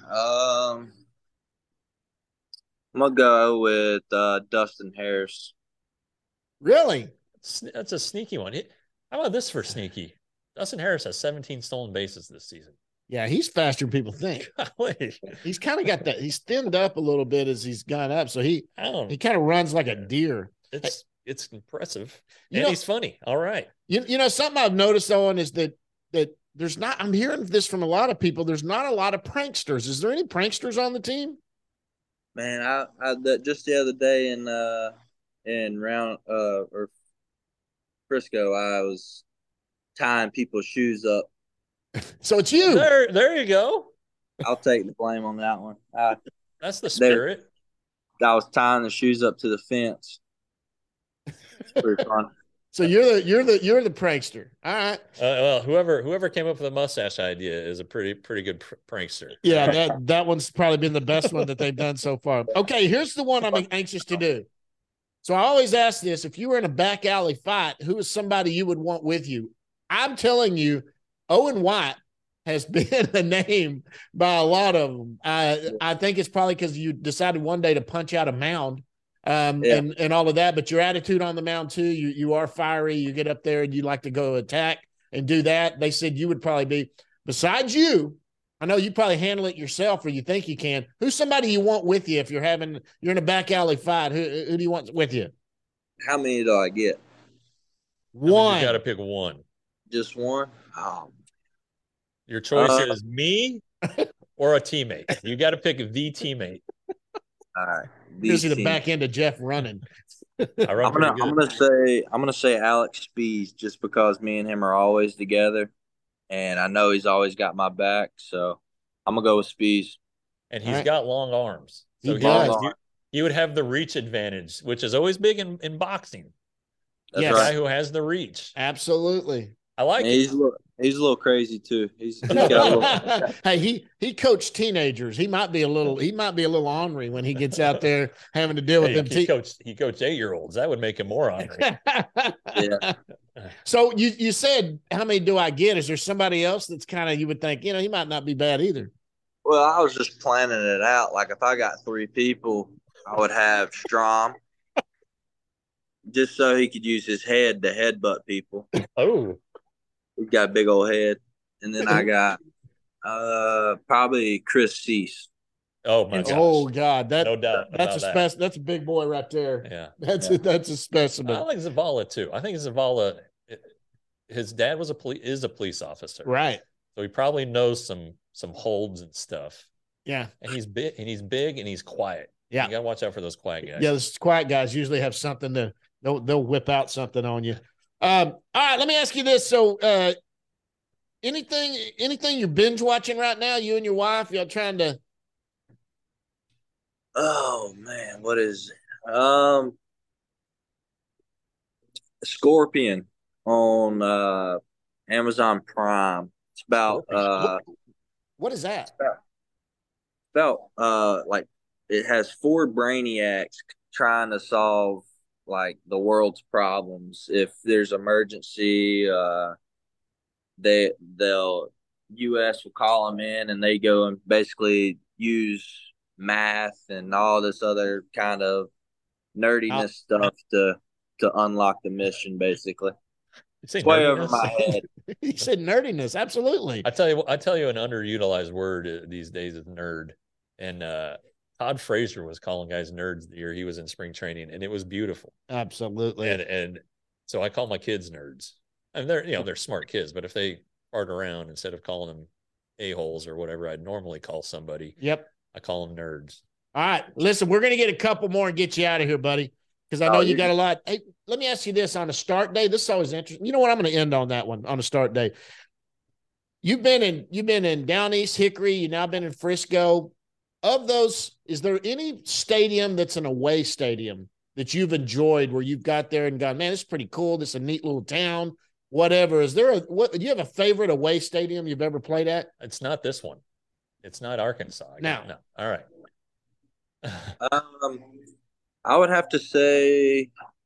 I'm gonna go with Dustin Harris. Really? That's a sneaky one. How about this for sneaky? Dustin Harris has 17 stolen bases this season. Yeah, he's faster than people think. He's kind of got that. He's thinned up a little bit as he's gone up, so he kind of runs like a deer. It's impressive, and he's funny. All right. Something I've noticed, Owen, is that there's not. I'm hearing this from a lot of people. There's not a lot of pranksters. Is there any pranksters on the team? Man, I just the other day in round or Frisco, I was tying people's shoes up. So it's you. There you go. I'll take the blame on that one. That's the spirit. I was tying the shoes up to the fence. Pretty fun. So you're the prankster. All right. Well, whoever came up with the mustache idea is a pretty good prankster. Yeah, that one's probably been the best one that they've done so far. Okay, here's the one I'm anxious to do. So I always ask this: if you were in a back alley fight, who is somebody you would want with you? I'm telling you, Owen White has been a name by a lot of them. I think it's probably because you decided one day to punch out a mound. And all of that, but your attitude on the mound too, you are fiery, you get up there and you like to go attack and do that. They said you would probably be, besides you, I know you probably handle it yourself, or you think you can. Who's somebody you want with you if you're in a back alley fight? Who do you want with you? How many do I get? One. You got to pick one. Just one? Oh. Your choice is me or a teammate. You got to pick the teammate. All right. You see the back end of Jeff running. I'm gonna say Alex Spees, just because me and him are always together, and I know he's always got my back. So I'm gonna go with Spees. And he's got long arms, so he would have the reach advantage, which is always big in boxing. That's the guy who has the reach. Absolutely. I like it. He's a little crazy too. He's got a little. Hey, he coached teenagers. He might be a little ornery when he gets out there having to deal with them. He coached 8-year-olds. That would make him more ornery. Yeah. So you said, how many do I get? Is there somebody else that's kind of, you would think, he might not be bad either? Well, I was just planning it out. Like if I got 3 people, I would have Strom, just so he could use his head to headbutt people. Oh, He's got a big old head. And then I got probably Chris Cease. Oh my gosh. Oh God, no doubt. That's that's a big boy right there. Yeah, that's a specimen. I like Zavala too. I think Zavala, his dad was is a police officer, right? So he probably knows some holds and stuff. Yeah, and he's big and he's quiet. Yeah, you gotta watch out for those quiet guys. Yeah, those quiet guys usually have something they'll whip out something on you. All right, let me ask you this. So, anything you're binge watching right now? You and your wife, y'all trying to? Oh man, what is it? Scorpion on Amazon Prime. It's about what is that? About like it has 4 brainiacs trying to solve like the world's problems. If there's emergency, they'll US will call them in and they go and basically use math and all this other kind of nerdiness stuff to unlock the mission. Basically, it's way over my head. He said nerdiness. Absolutely. I tell you, an underutilized word these days is nerd. And Todd Frazier was calling guys nerds the year he was in spring training, and it was beautiful. Absolutely. And so I call my kids nerds. I mean, they're smart kids, but if they fart around, instead of calling them a-holes or whatever I'd normally call somebody, yep, I call them nerds. All right, listen, we're going to get a couple more and get you out of here, buddy, because I know you got a lot. Hey, let me ask you this on a start day. This is always interesting. You know what? I'm going to end on that one on a start day. You've been in Down East Hickory. You've now been in Frisco. Of those, is there any stadium that's an away stadium that you've enjoyed where you've got there and gone, man, this is pretty cool. This is a neat little town, whatever. Is there do you have a favorite away stadium you've ever played at? It's not this one. It's not Arkansas. No. All right. I would have to say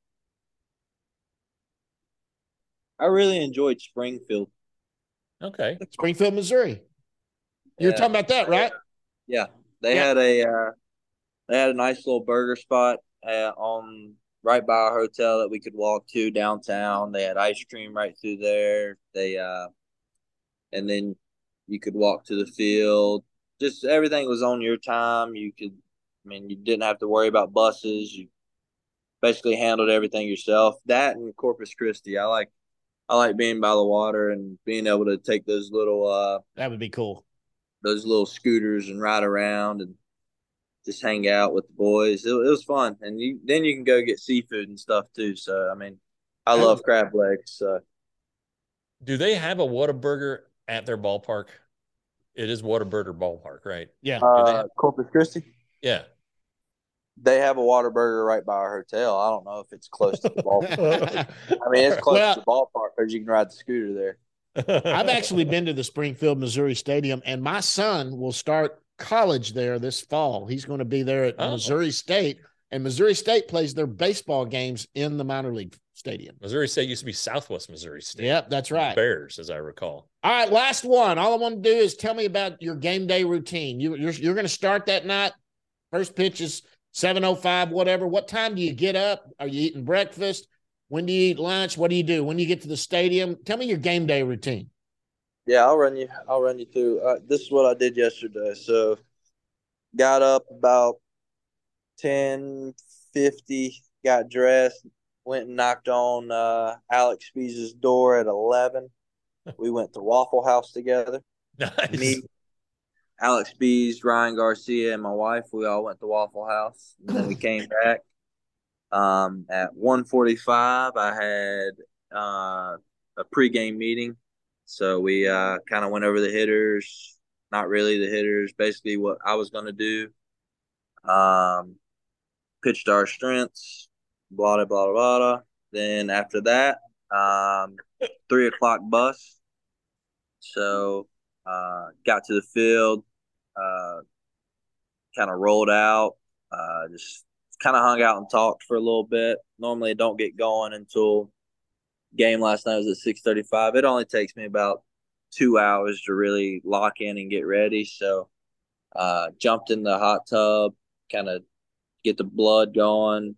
I really enjoyed Springfield. Okay. Springfield, Missouri. You're talking about that, right? Yeah. They had a nice little burger spot on right by our hotel that we could walk to downtown. They had ice cream right through there. And then you could walk to the field. Just everything was on your time. You didn't have to worry about buses. You basically handled everything yourself. That and Corpus Christi. I like being by the water and being able to take those little that would be cool. Those little scooters and ride around and just hang out with the boys. It was fun. And then you can go get seafood and stuff too. So I love crab legs. So. Do they have a Whataburger at their ballpark? It is Whataburger Ballpark, right? Yeah. Corpus Christi? Yeah. They have a Whataburger right by our hotel. I don't know if it's close to the ballpark. It's close to the ballpark because you can ride the scooter there. I've actually been to the Springfield, Missouri Stadium, and my son will start college there this fall. He's going to be there at Missouri State, and Missouri State plays their baseball games in the minor league stadium. Missouri State used to be Southwest Missouri State. Yep, that's right. Bears, as I recall. All right, last one. All I want to do is tell me about your game day routine. You're going to start that night. First pitch is 7:05, whatever. What time do you get up? Are you eating breakfast? When do you eat lunch? What do you do when you get to the stadium? Tell me your game day routine. Yeah, I'll run you through. This is what I did yesterday. So, got up about 10:50, got dressed, went and knocked on Alex Spees' door at 11. We went to Waffle House together. Nice. Me, Alex Spees, Ryan Garcia, and my wife. We all went to Waffle House, and then we came back. At 1:45, I had a pregame meeting. So we kind of went over the hitters, not really the hitters, basically what I was going to do. Pitched our strengths, blah, blah, blah, blah. Then after that, 3 o'clock bus. So got to the field, kind of rolled out, just kind of hung out and talked for a little bit. Normally, I don't get going until game last night was at 6:35. It only takes me about 2 hours to really lock in and get ready. So jumped in the hot tub, kind of get the blood going.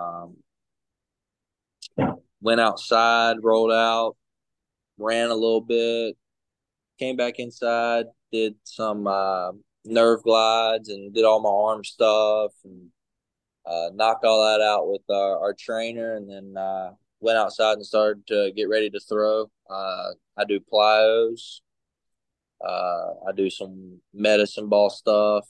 Went outside, rolled out, ran a little bit, came back inside, did some nerve glides and did all my arm stuff and knocked all that out with our trainer, and then went outside and started to get ready to throw. I do plyos. I do some medicine ball stuff.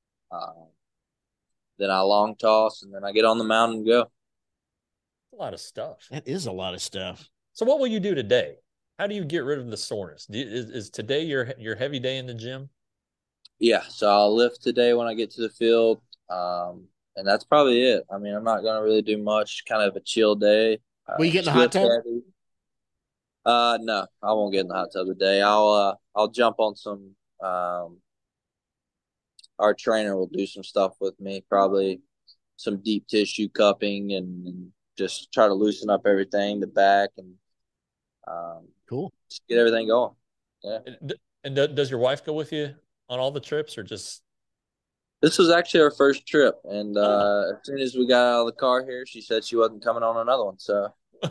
Then I long toss, and then I get on the mound and go. A lot of stuff. That is a lot of stuff. So what will you do today? How do you get rid of the soreness? Is today your heavy day in the gym? Yeah, so I'll lift today when I get to the field, and that's probably it. I mean, I'm not going to really do much. Kind of a chill day. Will you get in the hot tub? Heavy. No, I won't get in the hot tub today. I'll jump on some. Our trainer will do some stuff with me, probably some deep tissue cupping and just try to loosen up everything, the back, and cool. Just get everything going. Yeah. And does your wife go with you on all the trips, or just? This was actually our first trip, and as soon as we got out of the car here, she said she wasn't coming on another one. So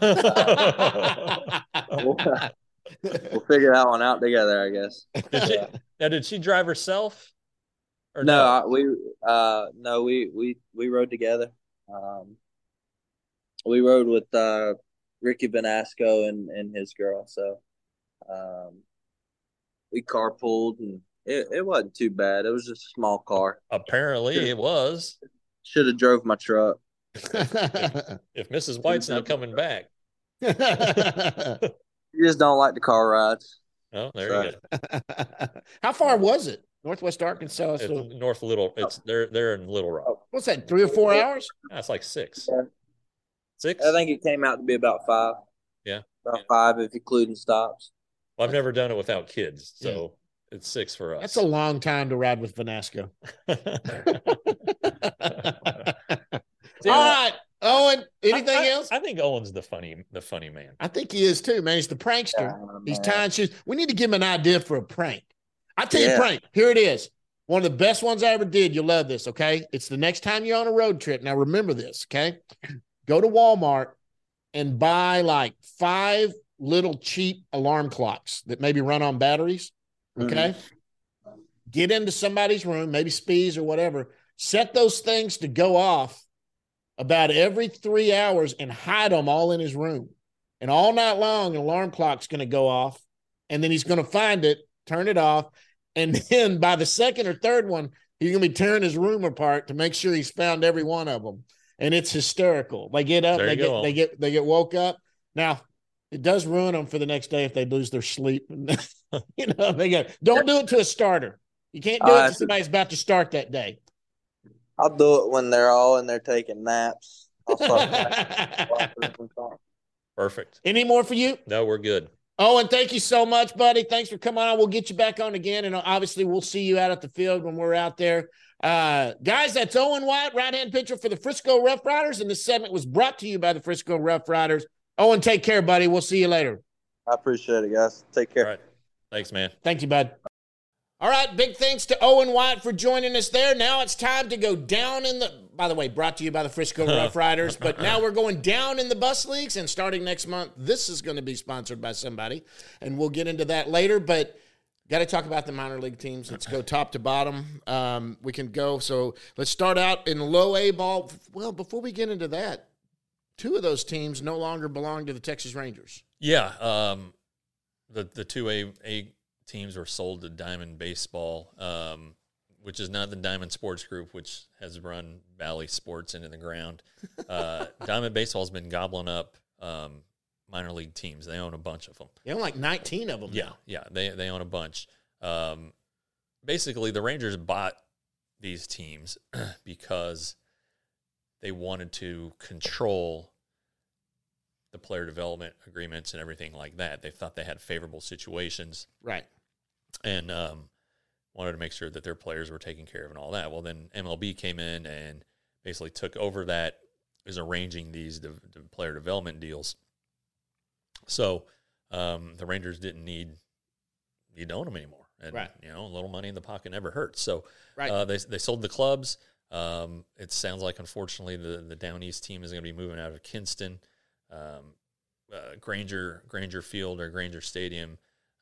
we'll figure that one out together, I guess. Did she drive herself? Or no, we rode together. We rode with Ricky Benasco and his girl. So we carpooled, and it wasn't too bad. It was just a small car. Apparently it was. Should have drove my truck. If Mrs. White's not coming back. You just don't like the car rides. Oh, there you go. How far was it? Northwest Arkansas. It's North Little. It's they're in Little Rock. What's that? 3 or 4 hours? That's like 6. Yeah. 6? I think it came out to be about 5. Yeah, about 5 if including stops. Well, I've never done it without kids, so it's 6 for us. That's a long time to ride with Vanasco. All right, Owen. Anything else? I think Owen's the funny man. I think he is too, man. He's the prankster. Yeah, He's tying shoes. We need to give him an idea for a prank. I tell you a prank. Here it is. One of the best ones I ever did. You'll love this, okay? It's the next time you're on a road trip. Now, remember this, okay? Go to Walmart and buy like 5 little cheap alarm clocks that maybe run on batteries, okay? Mm-hmm. Get into somebody's room, maybe Spees or whatever. Set those things to go off about every 3 hours and hide them all in his room. And all night long, an alarm clock's going to go off, and then he's going to find it, turn it off, and then by the second or third one, he's going to be tearing his room apart to make sure he's found every one of them. And it's hysterical. They get up, they get woke up. Now, it does ruin them for the next day if they lose their sleep. You know, they go, don't do it to a starter. You can't do it to somebody's about to start that day. I'll do it when they're all in there taking naps. Perfect. Any more for you? No, we're good. Owen, thank you so much, buddy. Thanks for coming on. We'll get you back on again, and obviously we'll see you out at the field when we're out there. Guys, that's Owen White, right-hand pitcher for the Frisco Rough Riders, and this segment was brought to you by the Frisco Rough Riders. Owen, take care, buddy. We'll see you later. I appreciate it, guys. Take care. All right. Thanks, man. Thank you, bud. All right, big thanks to Owen White for joining us there. Now it's time to go down in the – by the way, brought to you by the Frisco Rough Riders. But now we're going down in the bus leagues, and starting next month, this is going to be sponsored by somebody, and we'll get into that later. But got to talk about the minor league teams. Let's go top to bottom. We can go – so let's start out in low A ball. Well, before we get into that, 2 of those teams no longer belong to the Texas Rangers. Yeah, the 2A teams were sold to Diamond Baseball, which is not the Diamond Sports Group, which has run Valley Sports into the ground. Diamond Baseball has been gobbling up minor league teams. They own a bunch of them. They own like 19 of them. Yeah, they own a bunch. Basically, the Rangers bought these teams because they wanted to control the player development agreements and everything like that. They thought they had favorable situations. Right. and wanted to make sure that their players were taken care of and all that. Well, then MLB came in and basically took over that, is arranging these the player development deals. So the Rangers didn't need to own them anymore. And, right. A little money in the pocket never hurts. So right. They sold the clubs. It sounds like, unfortunately, the Down East team is going to be moving out of Kinston. Granger Field or Granger Stadium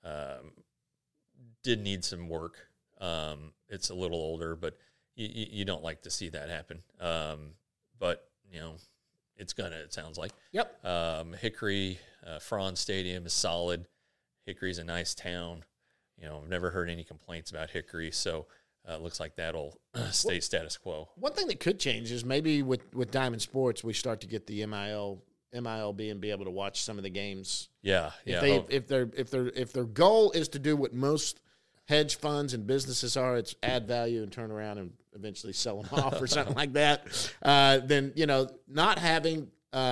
did need some work. It's a little older, but you don't like to see that happen. But, it's going to, it sounds like. Yep. Hickory, Franz Stadium is solid. Hickory's a nice town. I've never heard any complaints about Hickory, so it looks like that'll stay status quo. One thing that could change is maybe with Diamond Sports, we start to get the MLB and be able to watch some of the games. Yeah. If their goal is to do what most hedge funds and businesses are, it's add value and turn around and eventually sell them off or something like that. Then not having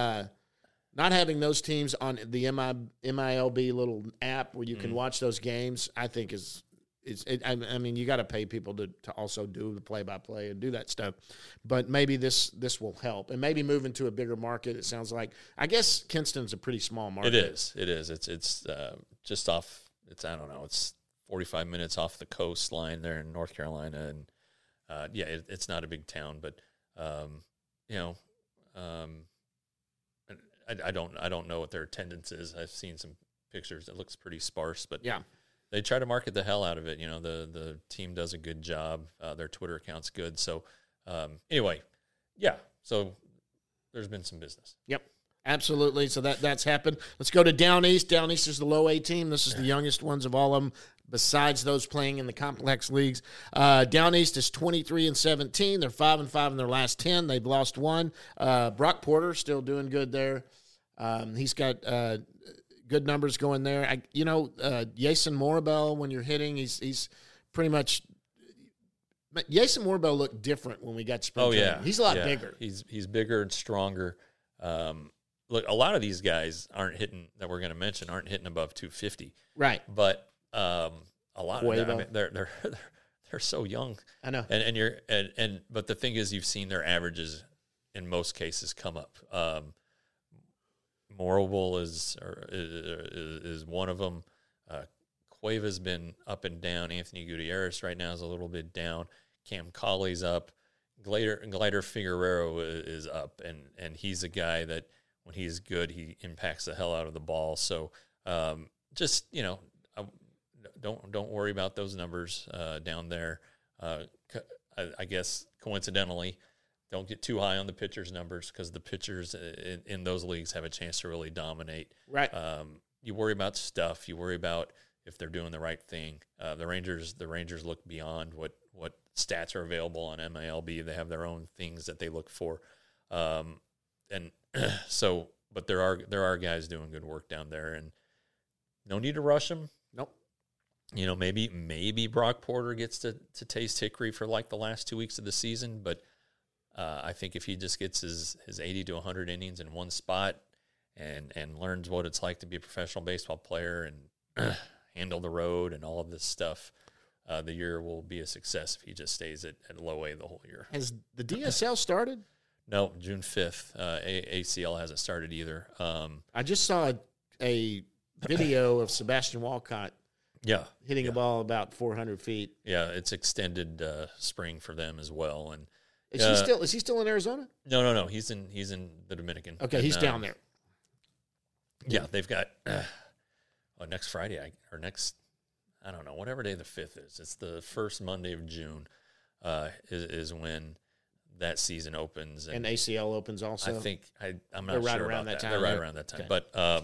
those teams on the MILB little app where you can watch those games, I think I mean, you got to pay people to also do the play-by-play and do that stuff. But maybe this will help. And maybe move into a bigger market, it sounds like. I guess Kinston's a pretty small market. It is. It's just off, it's 45 minutes off the coastline there in North Carolina. And, it's not a big town. But, I don't know what their attendance is. I've seen some pictures. It looks pretty sparse. But, yeah. They try to market the hell out of it. The team does a good job. Their Twitter account's good. So, anyway, yeah. So, there's been some business. Yep, absolutely. So that's happened. Let's go to Down East. Down East is the low A team. This is the youngest ones of all of them, besides those playing in the complex leagues. Down East is 23-17. They're 5-5 in their last 10. They've lost one. Brock Porter still doing good there. He's got good numbers going there. Jason Morabel, when you're hitting, he's pretty much. Jason Morabel looked different when we got spring training. Yeah, he's a lot bigger. He's bigger and stronger. Look, a lot of these guys aren't hitting above 250. Right, but a lot of them, they're so young. I know, but the thing is, you've seen their averages in most cases come up. Morable is one of them. Cueva's been up and down. Anthony Gutierrez right now is a little bit down. Cam Colley's up. Glider Figueroa is up, and he's a guy that when he's good, he impacts the hell out of the ball. So just don't worry about those numbers down there. I guess coincidentally, don't get too high on the pitchers' numbers because the pitchers in those leagues have a chance to really dominate. Right. You worry about stuff. You worry about if they're doing the right thing. The Rangers look beyond what stats are available on MILB. They have their own things that they look for, and so. But there are guys doing good work down there, and no need to rush them. Nope. Maybe Brock Porter gets to taste Hickory for like the last 2 weeks of the season, but. I think if he just gets his 80 to 100 innings in one spot and learns what it's like to be a professional baseball player and handle the road and all of this stuff, the year will be a success if he just stays at low A the whole year. Has the DSL started? No, June 5th. ACL hasn't started either. I just saw a video of Sebastian Walcott hitting a ball about 400 feet. Yeah, it's extended spring for them as well. And Is he still in Arizona? No. He's in the Dominican. Okay, and, he's down there. Yeah, they've got next Friday I don't know, whatever day the 5th is. It's the first Monday of June is when that season opens. And ACL opens also? I think I'm not sure around about that time. They're right around that time. Okay. But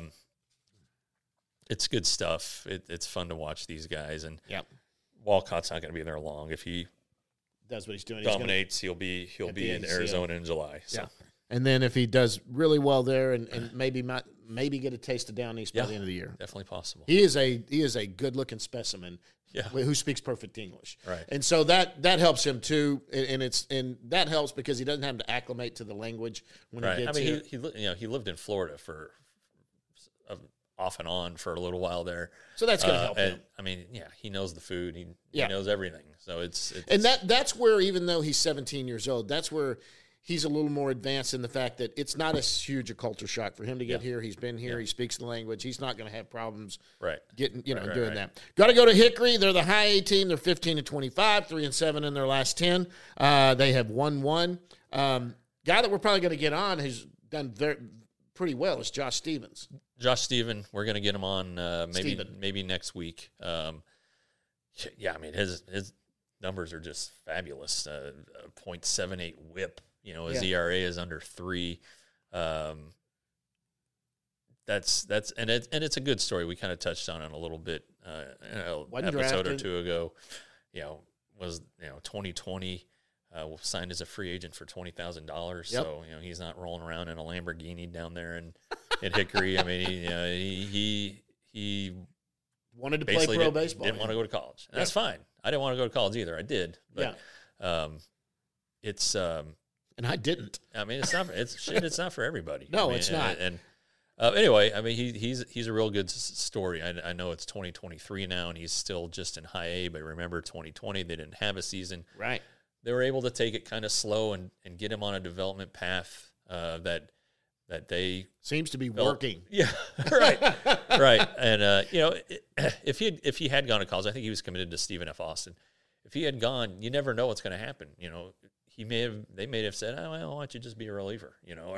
it's good stuff. It's fun to watch these guys. And Walcott's not going to be there long. If he does what he's doing, dominates, he'll be in Arizona in July. So. Yeah. And then if he does really well there and maybe get a taste of Down East by the end of the year. Definitely possible. He is a good-looking specimen who speaks perfect English. Right. And so that helps him too, and that helps because he doesn't have to acclimate to the language when he gets here. He lived in Florida for off and on for a little while there. So that's going to help him. I mean, yeah, he knows the food. He Yeah. knows everything. So it's And that's where, even though he's 17 years old, that's where he's a little more advanced in the fact that it's not as huge a culture shock for him to get here. He's been here. He speaks the language. He's not going to have problems right. getting, doing right. that. Got to go to Hickory. They're the high A team. They're 15-25, 3-7 in their last 10. They have won one. Guy that we're probably going to get on who's done pretty well is Josh Stevens. Josh Steven, we're going to get him on maybe next week. Yeah, I mean his numbers are just fabulous. 0.78 WHIP. His ERA is under 3. That's and it's a good story. We kind of touched on it a little bit an episode or two ago. Was 2020 signed as a free agent for $20,000. So he's not rolling around in a Lamborghini down there in Hickory. I mean, he wanted to play pro baseball. Didn't want to go to college. And that's fine. I didn't want to go to college either. I did, but it's and I didn't. I mean, it's not. It's not for everybody. No, I mean, it's not. And anyway, I mean, he's a real good story. I know it's 2023 now, and he's still just in high A. But remember, 2020 they didn't have a season. Right. They were able to take it kind of slow and get him on a development path that they seems to be working. Yeah, right, right. And if he had gone to college, I think he was committed to Stephen F. Austin. If he had gone, you never know what's going to happen. They may have said, "Oh, well, why don't you just be a reliever?"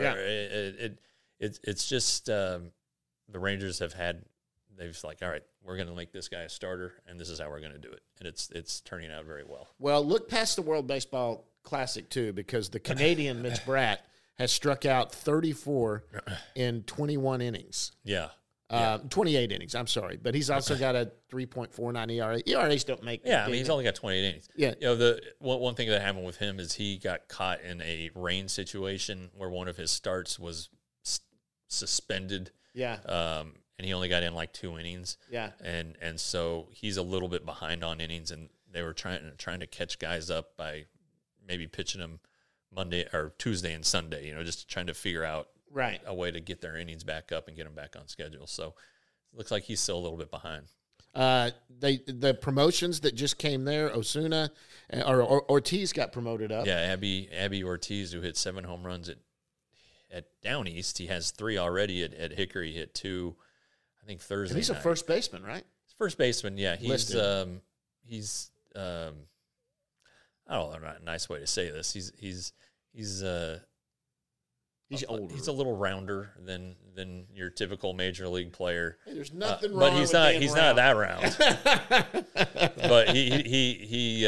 It's just the Rangers they've like, all right, we're going to make this guy a starter, and this is how we're going to do it, and it's turning out very well. Well, look past the World Baseball Classic too, because the Canadian Mitch Bratt has struck out 34 in 21 innings. Yeah. 28 innings, I'm sorry. But he's also got a 3.49 ERA. ERAs don't make I mean, he's only got 28 innings. Yeah. The one thing that happened with him is he got caught in a rain situation where one of his starts was suspended. Yeah. And he only got in like 2 innings. Yeah. And so he's a little bit behind on innings, and they were trying to catch guys up by maybe pitching them Monday or Tuesday and Sunday, just trying to figure out a way to get their innings back up and get them back on schedule. So it looks like he's still a little bit behind. The promotions that just came there, Osuna or Ortiz got promoted up. Yeah, Abby Ortiz, who hit 7 home runs at Down East. He has 3 already at Hickory. He hit 2, I think, Thursday. And he's a first baseman, right? First baseman, yeah. He's I don't know a nice way to say this. He's older. He's a little rounder than your typical major league player. Hey, there's nothing wrong. But he's with not. He's not that round. But he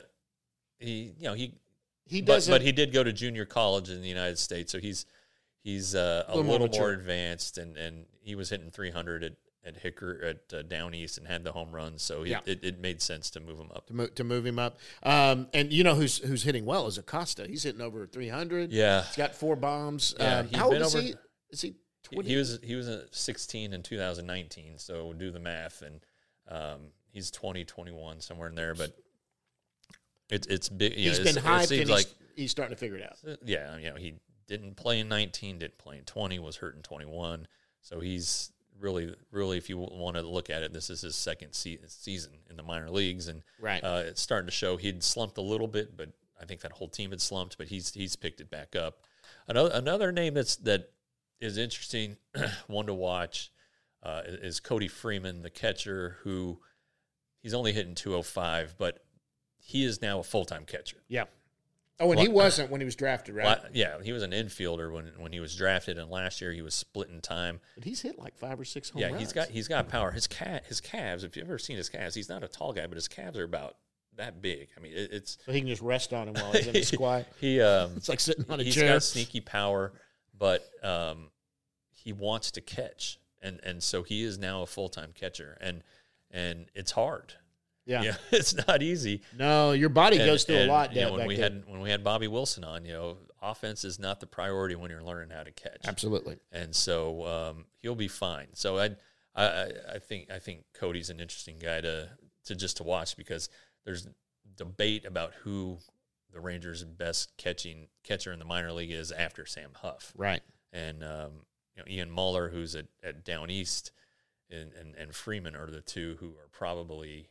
doesn't. But he did go to junior college in the United States, so he's a little more advanced, and he was hitting 300 at Hickory at Down East and had the home run, so it made sense to move him up. To move him up, and who's hitting well is Acosta. He's hitting over 300. Yeah, he's got 4 bombs. Yeah, how old is he? Is he 20? He was 16 in 2019. So do the math, and he's 20, 21 somewhere in there. But it's big. He's been hyped, and he's starting to figure it out. Yeah, he didn't play in 19, didn't play in 20, was hurt in 21. So he's really, if you want to look at it, this is his second season in the minor leagues, and it's starting to show. He'd slumped a little bit, but I think that whole team had slumped, but he's picked it back up. Another name that is interesting, one to watch, is Cody Freeman, the catcher, who he's only hitting 205, but he is now a full-time catcher. Yeah. Oh, and he wasn't when he was drafted, right? Yeah, he was an infielder when he was drafted, and last year he was splitting time. But he's hit like 5 or 6 home runs. Yeah, he's got power. His calves, if you've ever seen his calves, he's not a tall guy, but his calves are about that big. I mean, it's so he can just rest on him while he's in the squat. It's like sitting on a chair. He's got sneaky power, but he wants to catch, and so he is now a full-time catcher, and it's hard. Yeah, it's not easy. No, your body goes through a lot. When we had Bobby Wilson on, offense is not the priority when you're learning how to catch. Absolutely. And so he'll be fine. So I think Cody's an interesting guy to watch, because there's debate about who the Rangers' best catcher in the minor league is after Sam Huff. Right. And Ian Muller, who's at Down East, and Freeman are the two who are probably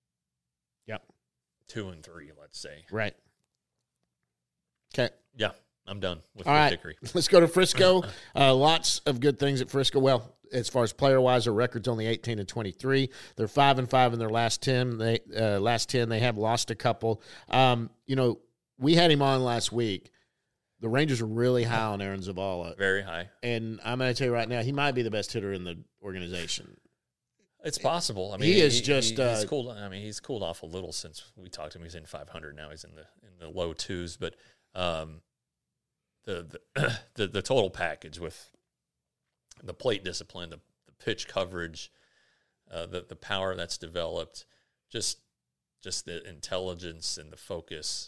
2 and 3, let's say. Right. Okay. Yeah, I'm done with All right. Hickory. Let's go to Frisco. Lots of good things at Frisco. Well, as far as player-wise, their record's only 18-23. They're 5-5 in their last 10. They have lost a couple. We had him on last week. The Rangers are really high on Aaron Zavala. Very high. And I'm going to tell you right now, he might be the best hitter in the organization. It's possible. I mean, he's cooled. I mean, he's cooled off a little since we talked to him. He's in 500 now. He's in the low 2s, but the total package with the plate discipline, the pitch coverage, the power that's developed, just the intelligence and the focus.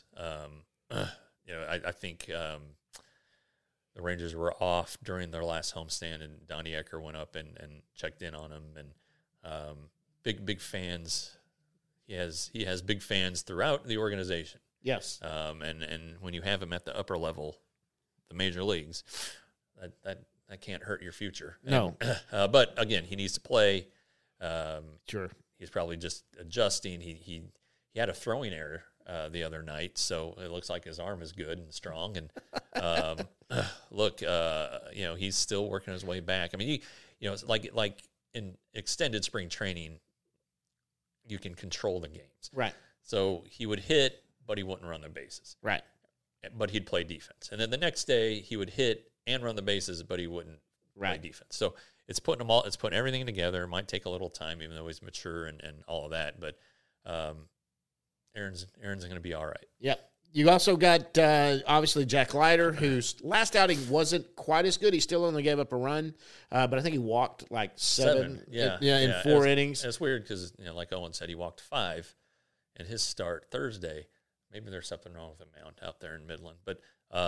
I think the Rangers were off during their last homestand, and Donnie Ecker went up and checked in on him. And big fans. He has big fans throughout the organization. Yes. And when you have him at the upper level, the major leagues, that can't hurt your future. No. But again, he needs to play. Sure. He's probably just adjusting. He had a throwing error the other night, so it looks like his arm is good and strong. And look, he's still working his way back. I mean, it's like in extended spring training, you can control the games. Right. So he would hit, but he wouldn't run the bases. Right. But he'd play defense. And then the next day he would hit and run the bases, but he wouldn't play defense. So it's putting everything together. It might take a little time, even though he's mature and all of that. But Aaron's going to be all right. Yep. You also got, obviously, Jack Leiter, whose last outing wasn't quite as good. He still only gave up a run, but I think he walked like seven in 4 innings. It's weird because, like Owen said, he walked 5 in his start Thursday. Maybe there's something wrong with the mound out there in Midland. But,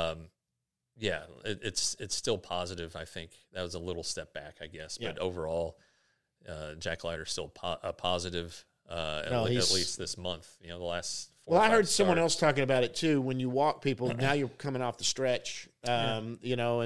it's still positive. I think that was a little step back, I guess. But overall, Jack Leiter's still a positive. At least this month, the last 4 Well, I heard starts. someone else talking about it too. When you walk people, now you're coming off the stretch, and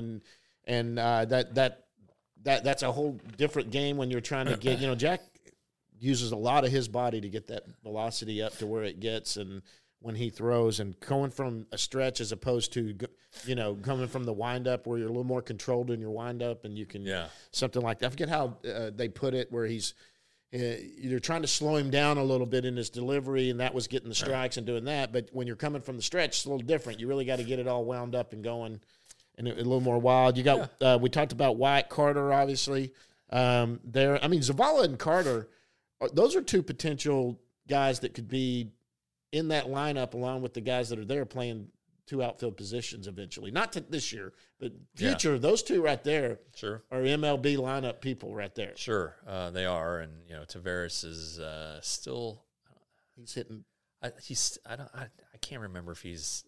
that's a whole different game when you're trying to get. Jack uses a lot of his body to get that velocity up to where it gets, and when he throws, and going from a stretch as opposed to coming from the windup where you're a little more controlled in your windup, and you can something like that. I forget how they put it, where he's. You're trying to slow him down a little bit in his delivery, and that was getting the strikes and doing that. But when you're coming from the stretch, it's a little different. You really got to get it all wound up and going and a little more wild. You got we talked about Wyatt Carter, obviously. Zavala and Carter, those are two potential guys that could be in that lineup along with the guys that are there playing 2 outfield positions eventually. Not this year, but future. Those two right there are MLB lineup people right there. Sure, they are. And, Tavares is still – he's hitting – I can't remember if he's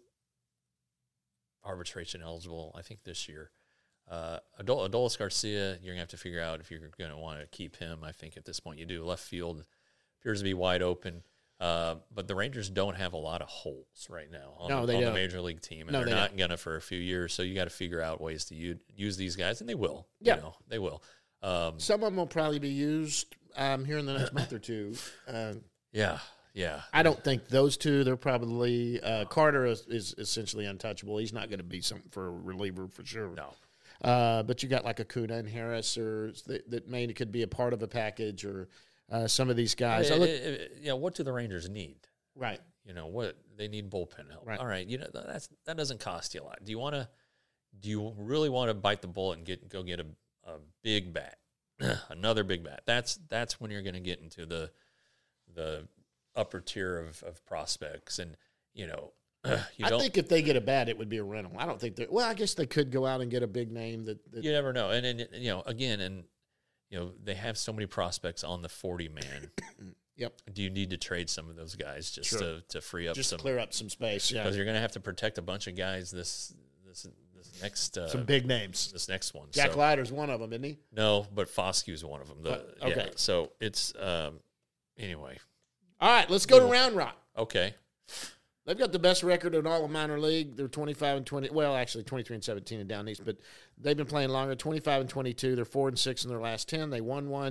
arbitration eligible, I think this year. Adolis Garcia, you're going to have to figure out if you're going to want to keep him. I think at this point you do. Left field appears to be wide open. But the Rangers don't have a lot of holes right now on the major league team, and they're not going to for a few years. So you got to figure out ways to use these guys, and they will. Yeah, they will. Some of them will probably be used here in the next month or two. Yeah. I don't think those two. They're probably Carter is essentially untouchable. He's not going to be something for a reliever for sure. No. But you got like Acuna and Harris, or that could be a part of a package, or. Some of these guys. What do the Rangers need? Right. What they need bullpen help. Right. All right. That doesn't cost you a lot. Do you really want to bite the bullet and go get a big bat, another big bat? That's when you're going to get into the upper tier of prospects, and I think if they get a bat, it would be a rental. I don't think I guess they could go out and get a big name that you never know. And again. They have so many prospects on the 40-man. Yep. Do you need to trade some of those guys just to free up clear up some space? Yeah. Because you're going to have to protect a bunch of guys this next some big names. This next one. Jack Leiter's one of them, isn't he? No, but Foskew's one of them. Okay. Yeah, so it's anyway. All right, let's go to Round Rock. Okay. They've got the best record in all of minor league. They're 25-20. Well, actually 23-17 in Down East, but they've been playing longer. 25-22. They're 4-6 in their last 10. They won one.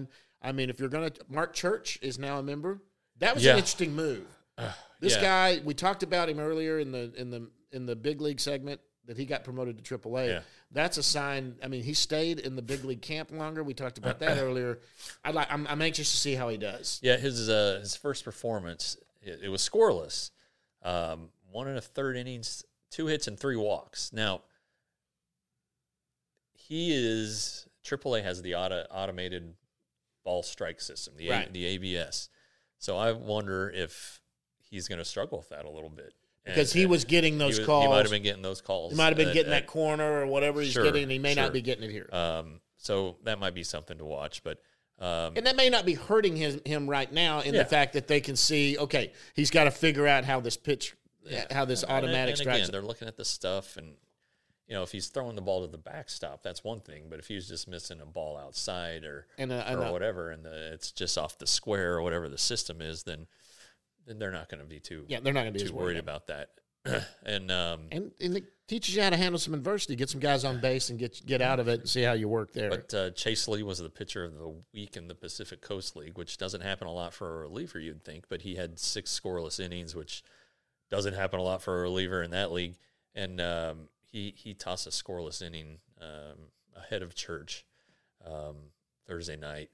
I mean, if you're going to, Mark Church is now a member. That was Yeah. an interesting move. This guy, we talked about him earlier in the big league segment that he got promoted to AAA. Yeah. That's a sign. I mean, he stayed in the big league camp longer. We talked about that earlier. I'm anxious to see how he does. Yeah, his first performance, it was scoreless. 1 1/3 innings, 2 hits and 3 walks. Now, AAA has the automated ball strike system, the ABS. So I wonder if he's going to struggle with that a little bit. Because he was getting those calls. He might have been getting those calls. He might have been getting that corner or whatever he's Sure, getting, and he may sure. not be getting it here. So that might be something to watch. But and that may not be hurting him right now in the fact that they can see, okay, he's got to figure out how this pitch, how this automatic and strikes. again, they're looking at the stuff, and if he's throwing the ball to the backstop, that's one thing. But if he's just missing a ball outside or whatever, and it's just off the square or whatever the system is, then they're not going to be too they're not going to be too worried about that. and it teaches you how to handle some adversity, get some guys on base, and get out of it and see how you work there. But Chase Lee was the pitcher of the week in the Pacific Coast League, which doesn't happen a lot for a reliever, you'd think. But he had 6 scoreless innings, which doesn't happen a lot for a reliever in that league. And he tossed a scoreless inning ahead of Church Thursday night.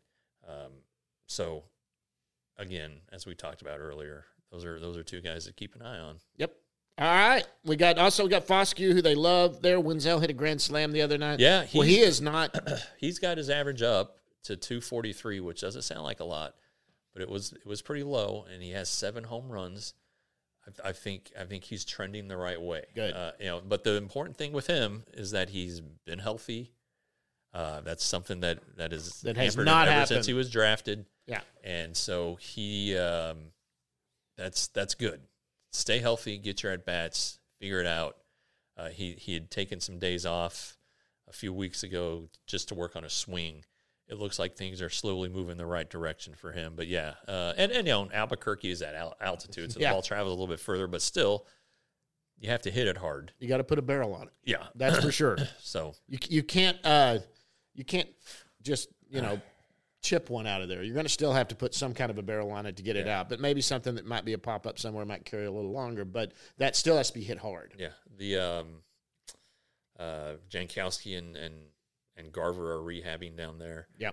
So again, as we talked about earlier, those are 2 guys to keep an eye on. Yep. All right. We got Foscue, who they love there. Wenzel hit a grand slam the other night. Yeah. He is not. He's got his average up to 243, which doesn't sound like a lot, but it was pretty low, and he has 7 home runs. I think he's trending the right way. Good. But the important thing with him is that he's been healthy. That's something that has not ever happened since he was drafted. Yeah. And so he that's good. Stay healthy, get your at bats, figure it out. He had taken some days off a few weeks ago just to work on a swing. It looks like things are slowly moving the right direction for him. But yeah, and Albuquerque is at altitude, so the ball travels a little bit further, but still, you have to hit it hard. You got to put a barrel on it. Yeah, that's for sure. So you can't just chip one out of there. You're going to still have to put some kind of a barrel on it to get it out. But maybe something that might be a pop up somewhere might carry a little longer. But that still has to be hit hard. Yeah, the Jankowski and Garver are rehabbing down there. Yep.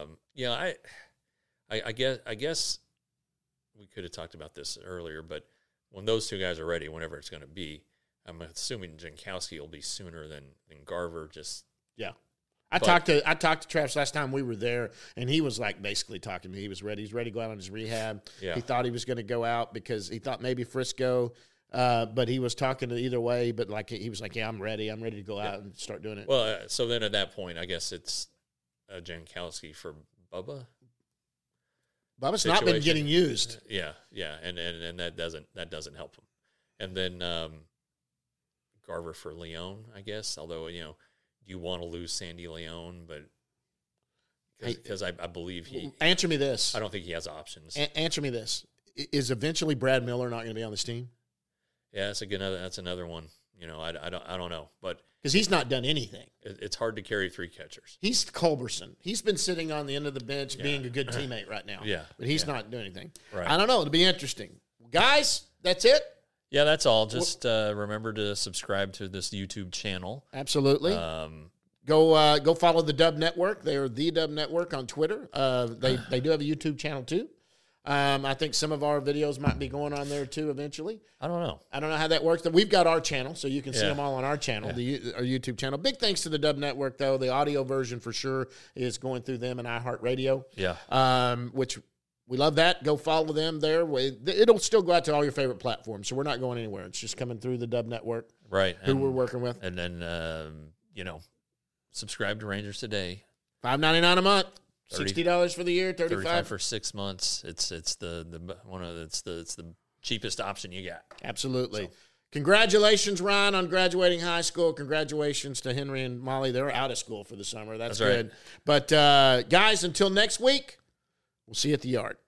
I guess we could have talked about this earlier, but when those 2 guys are ready, whenever it's going to be, I'm assuming Jankowski will be sooner than Garver. I talked to Travis last time we were there, and he was basically talking to me. He was ready. He's ready to go out on his rehab. Yeah. He thought he was going to go out because he thought maybe Frisco, but he was talking to either way. But he was like, "Yeah, I'm ready. I'm ready to go out and start doing it." Well, so then at that point, I guess it's Jankowski for Bubba. Bubba's not been getting used. Yeah, and that doesn't help him. And then Garver for Leon, I guess. Although you want to lose Sandy Leon, but because I believe he. Answer me this. I don't think he has options. Answer me this: is eventually Brad Miller not going to be on this team? Yeah, that's another one. I don't know, but because he's not done anything. It's hard to carry 3 catchers. He's Culberson. He's been sitting on the end of the bench, being a good teammate right now. Yeah, but he's not doing anything. Right. I don't know. It'll be interesting, guys. That's it. Yeah, that's all. Just remember to subscribe to this YouTube channel. Absolutely. Go follow the Dub Network. They are the Dub Network on Twitter. They do have a YouTube channel too. I think some of our videos might be going on there too eventually. I don't know how that works. We've got our channel, so you can see them all on our channel, our YouTube channel. Big thanks to the Dub Network, though. The audio version for sure is going through them and iHeartRadio. Yeah. Which we love that. Go follow them there. It'll still go out to all your favorite platforms, so we're not going anywhere. It's just coming through the Dub Network, right? Who we're working with, and then subscribe to Rangers Today. $5.99 a month. $60 for the year, $35 for 6 months. It's the cheapest option you got. Absolutely. So. Congratulations, Ryan, on graduating high school. Congratulations to Henry and Molly. They're out of school for the summer. That's good. Right. But guys, until next week, we'll see you at the yard.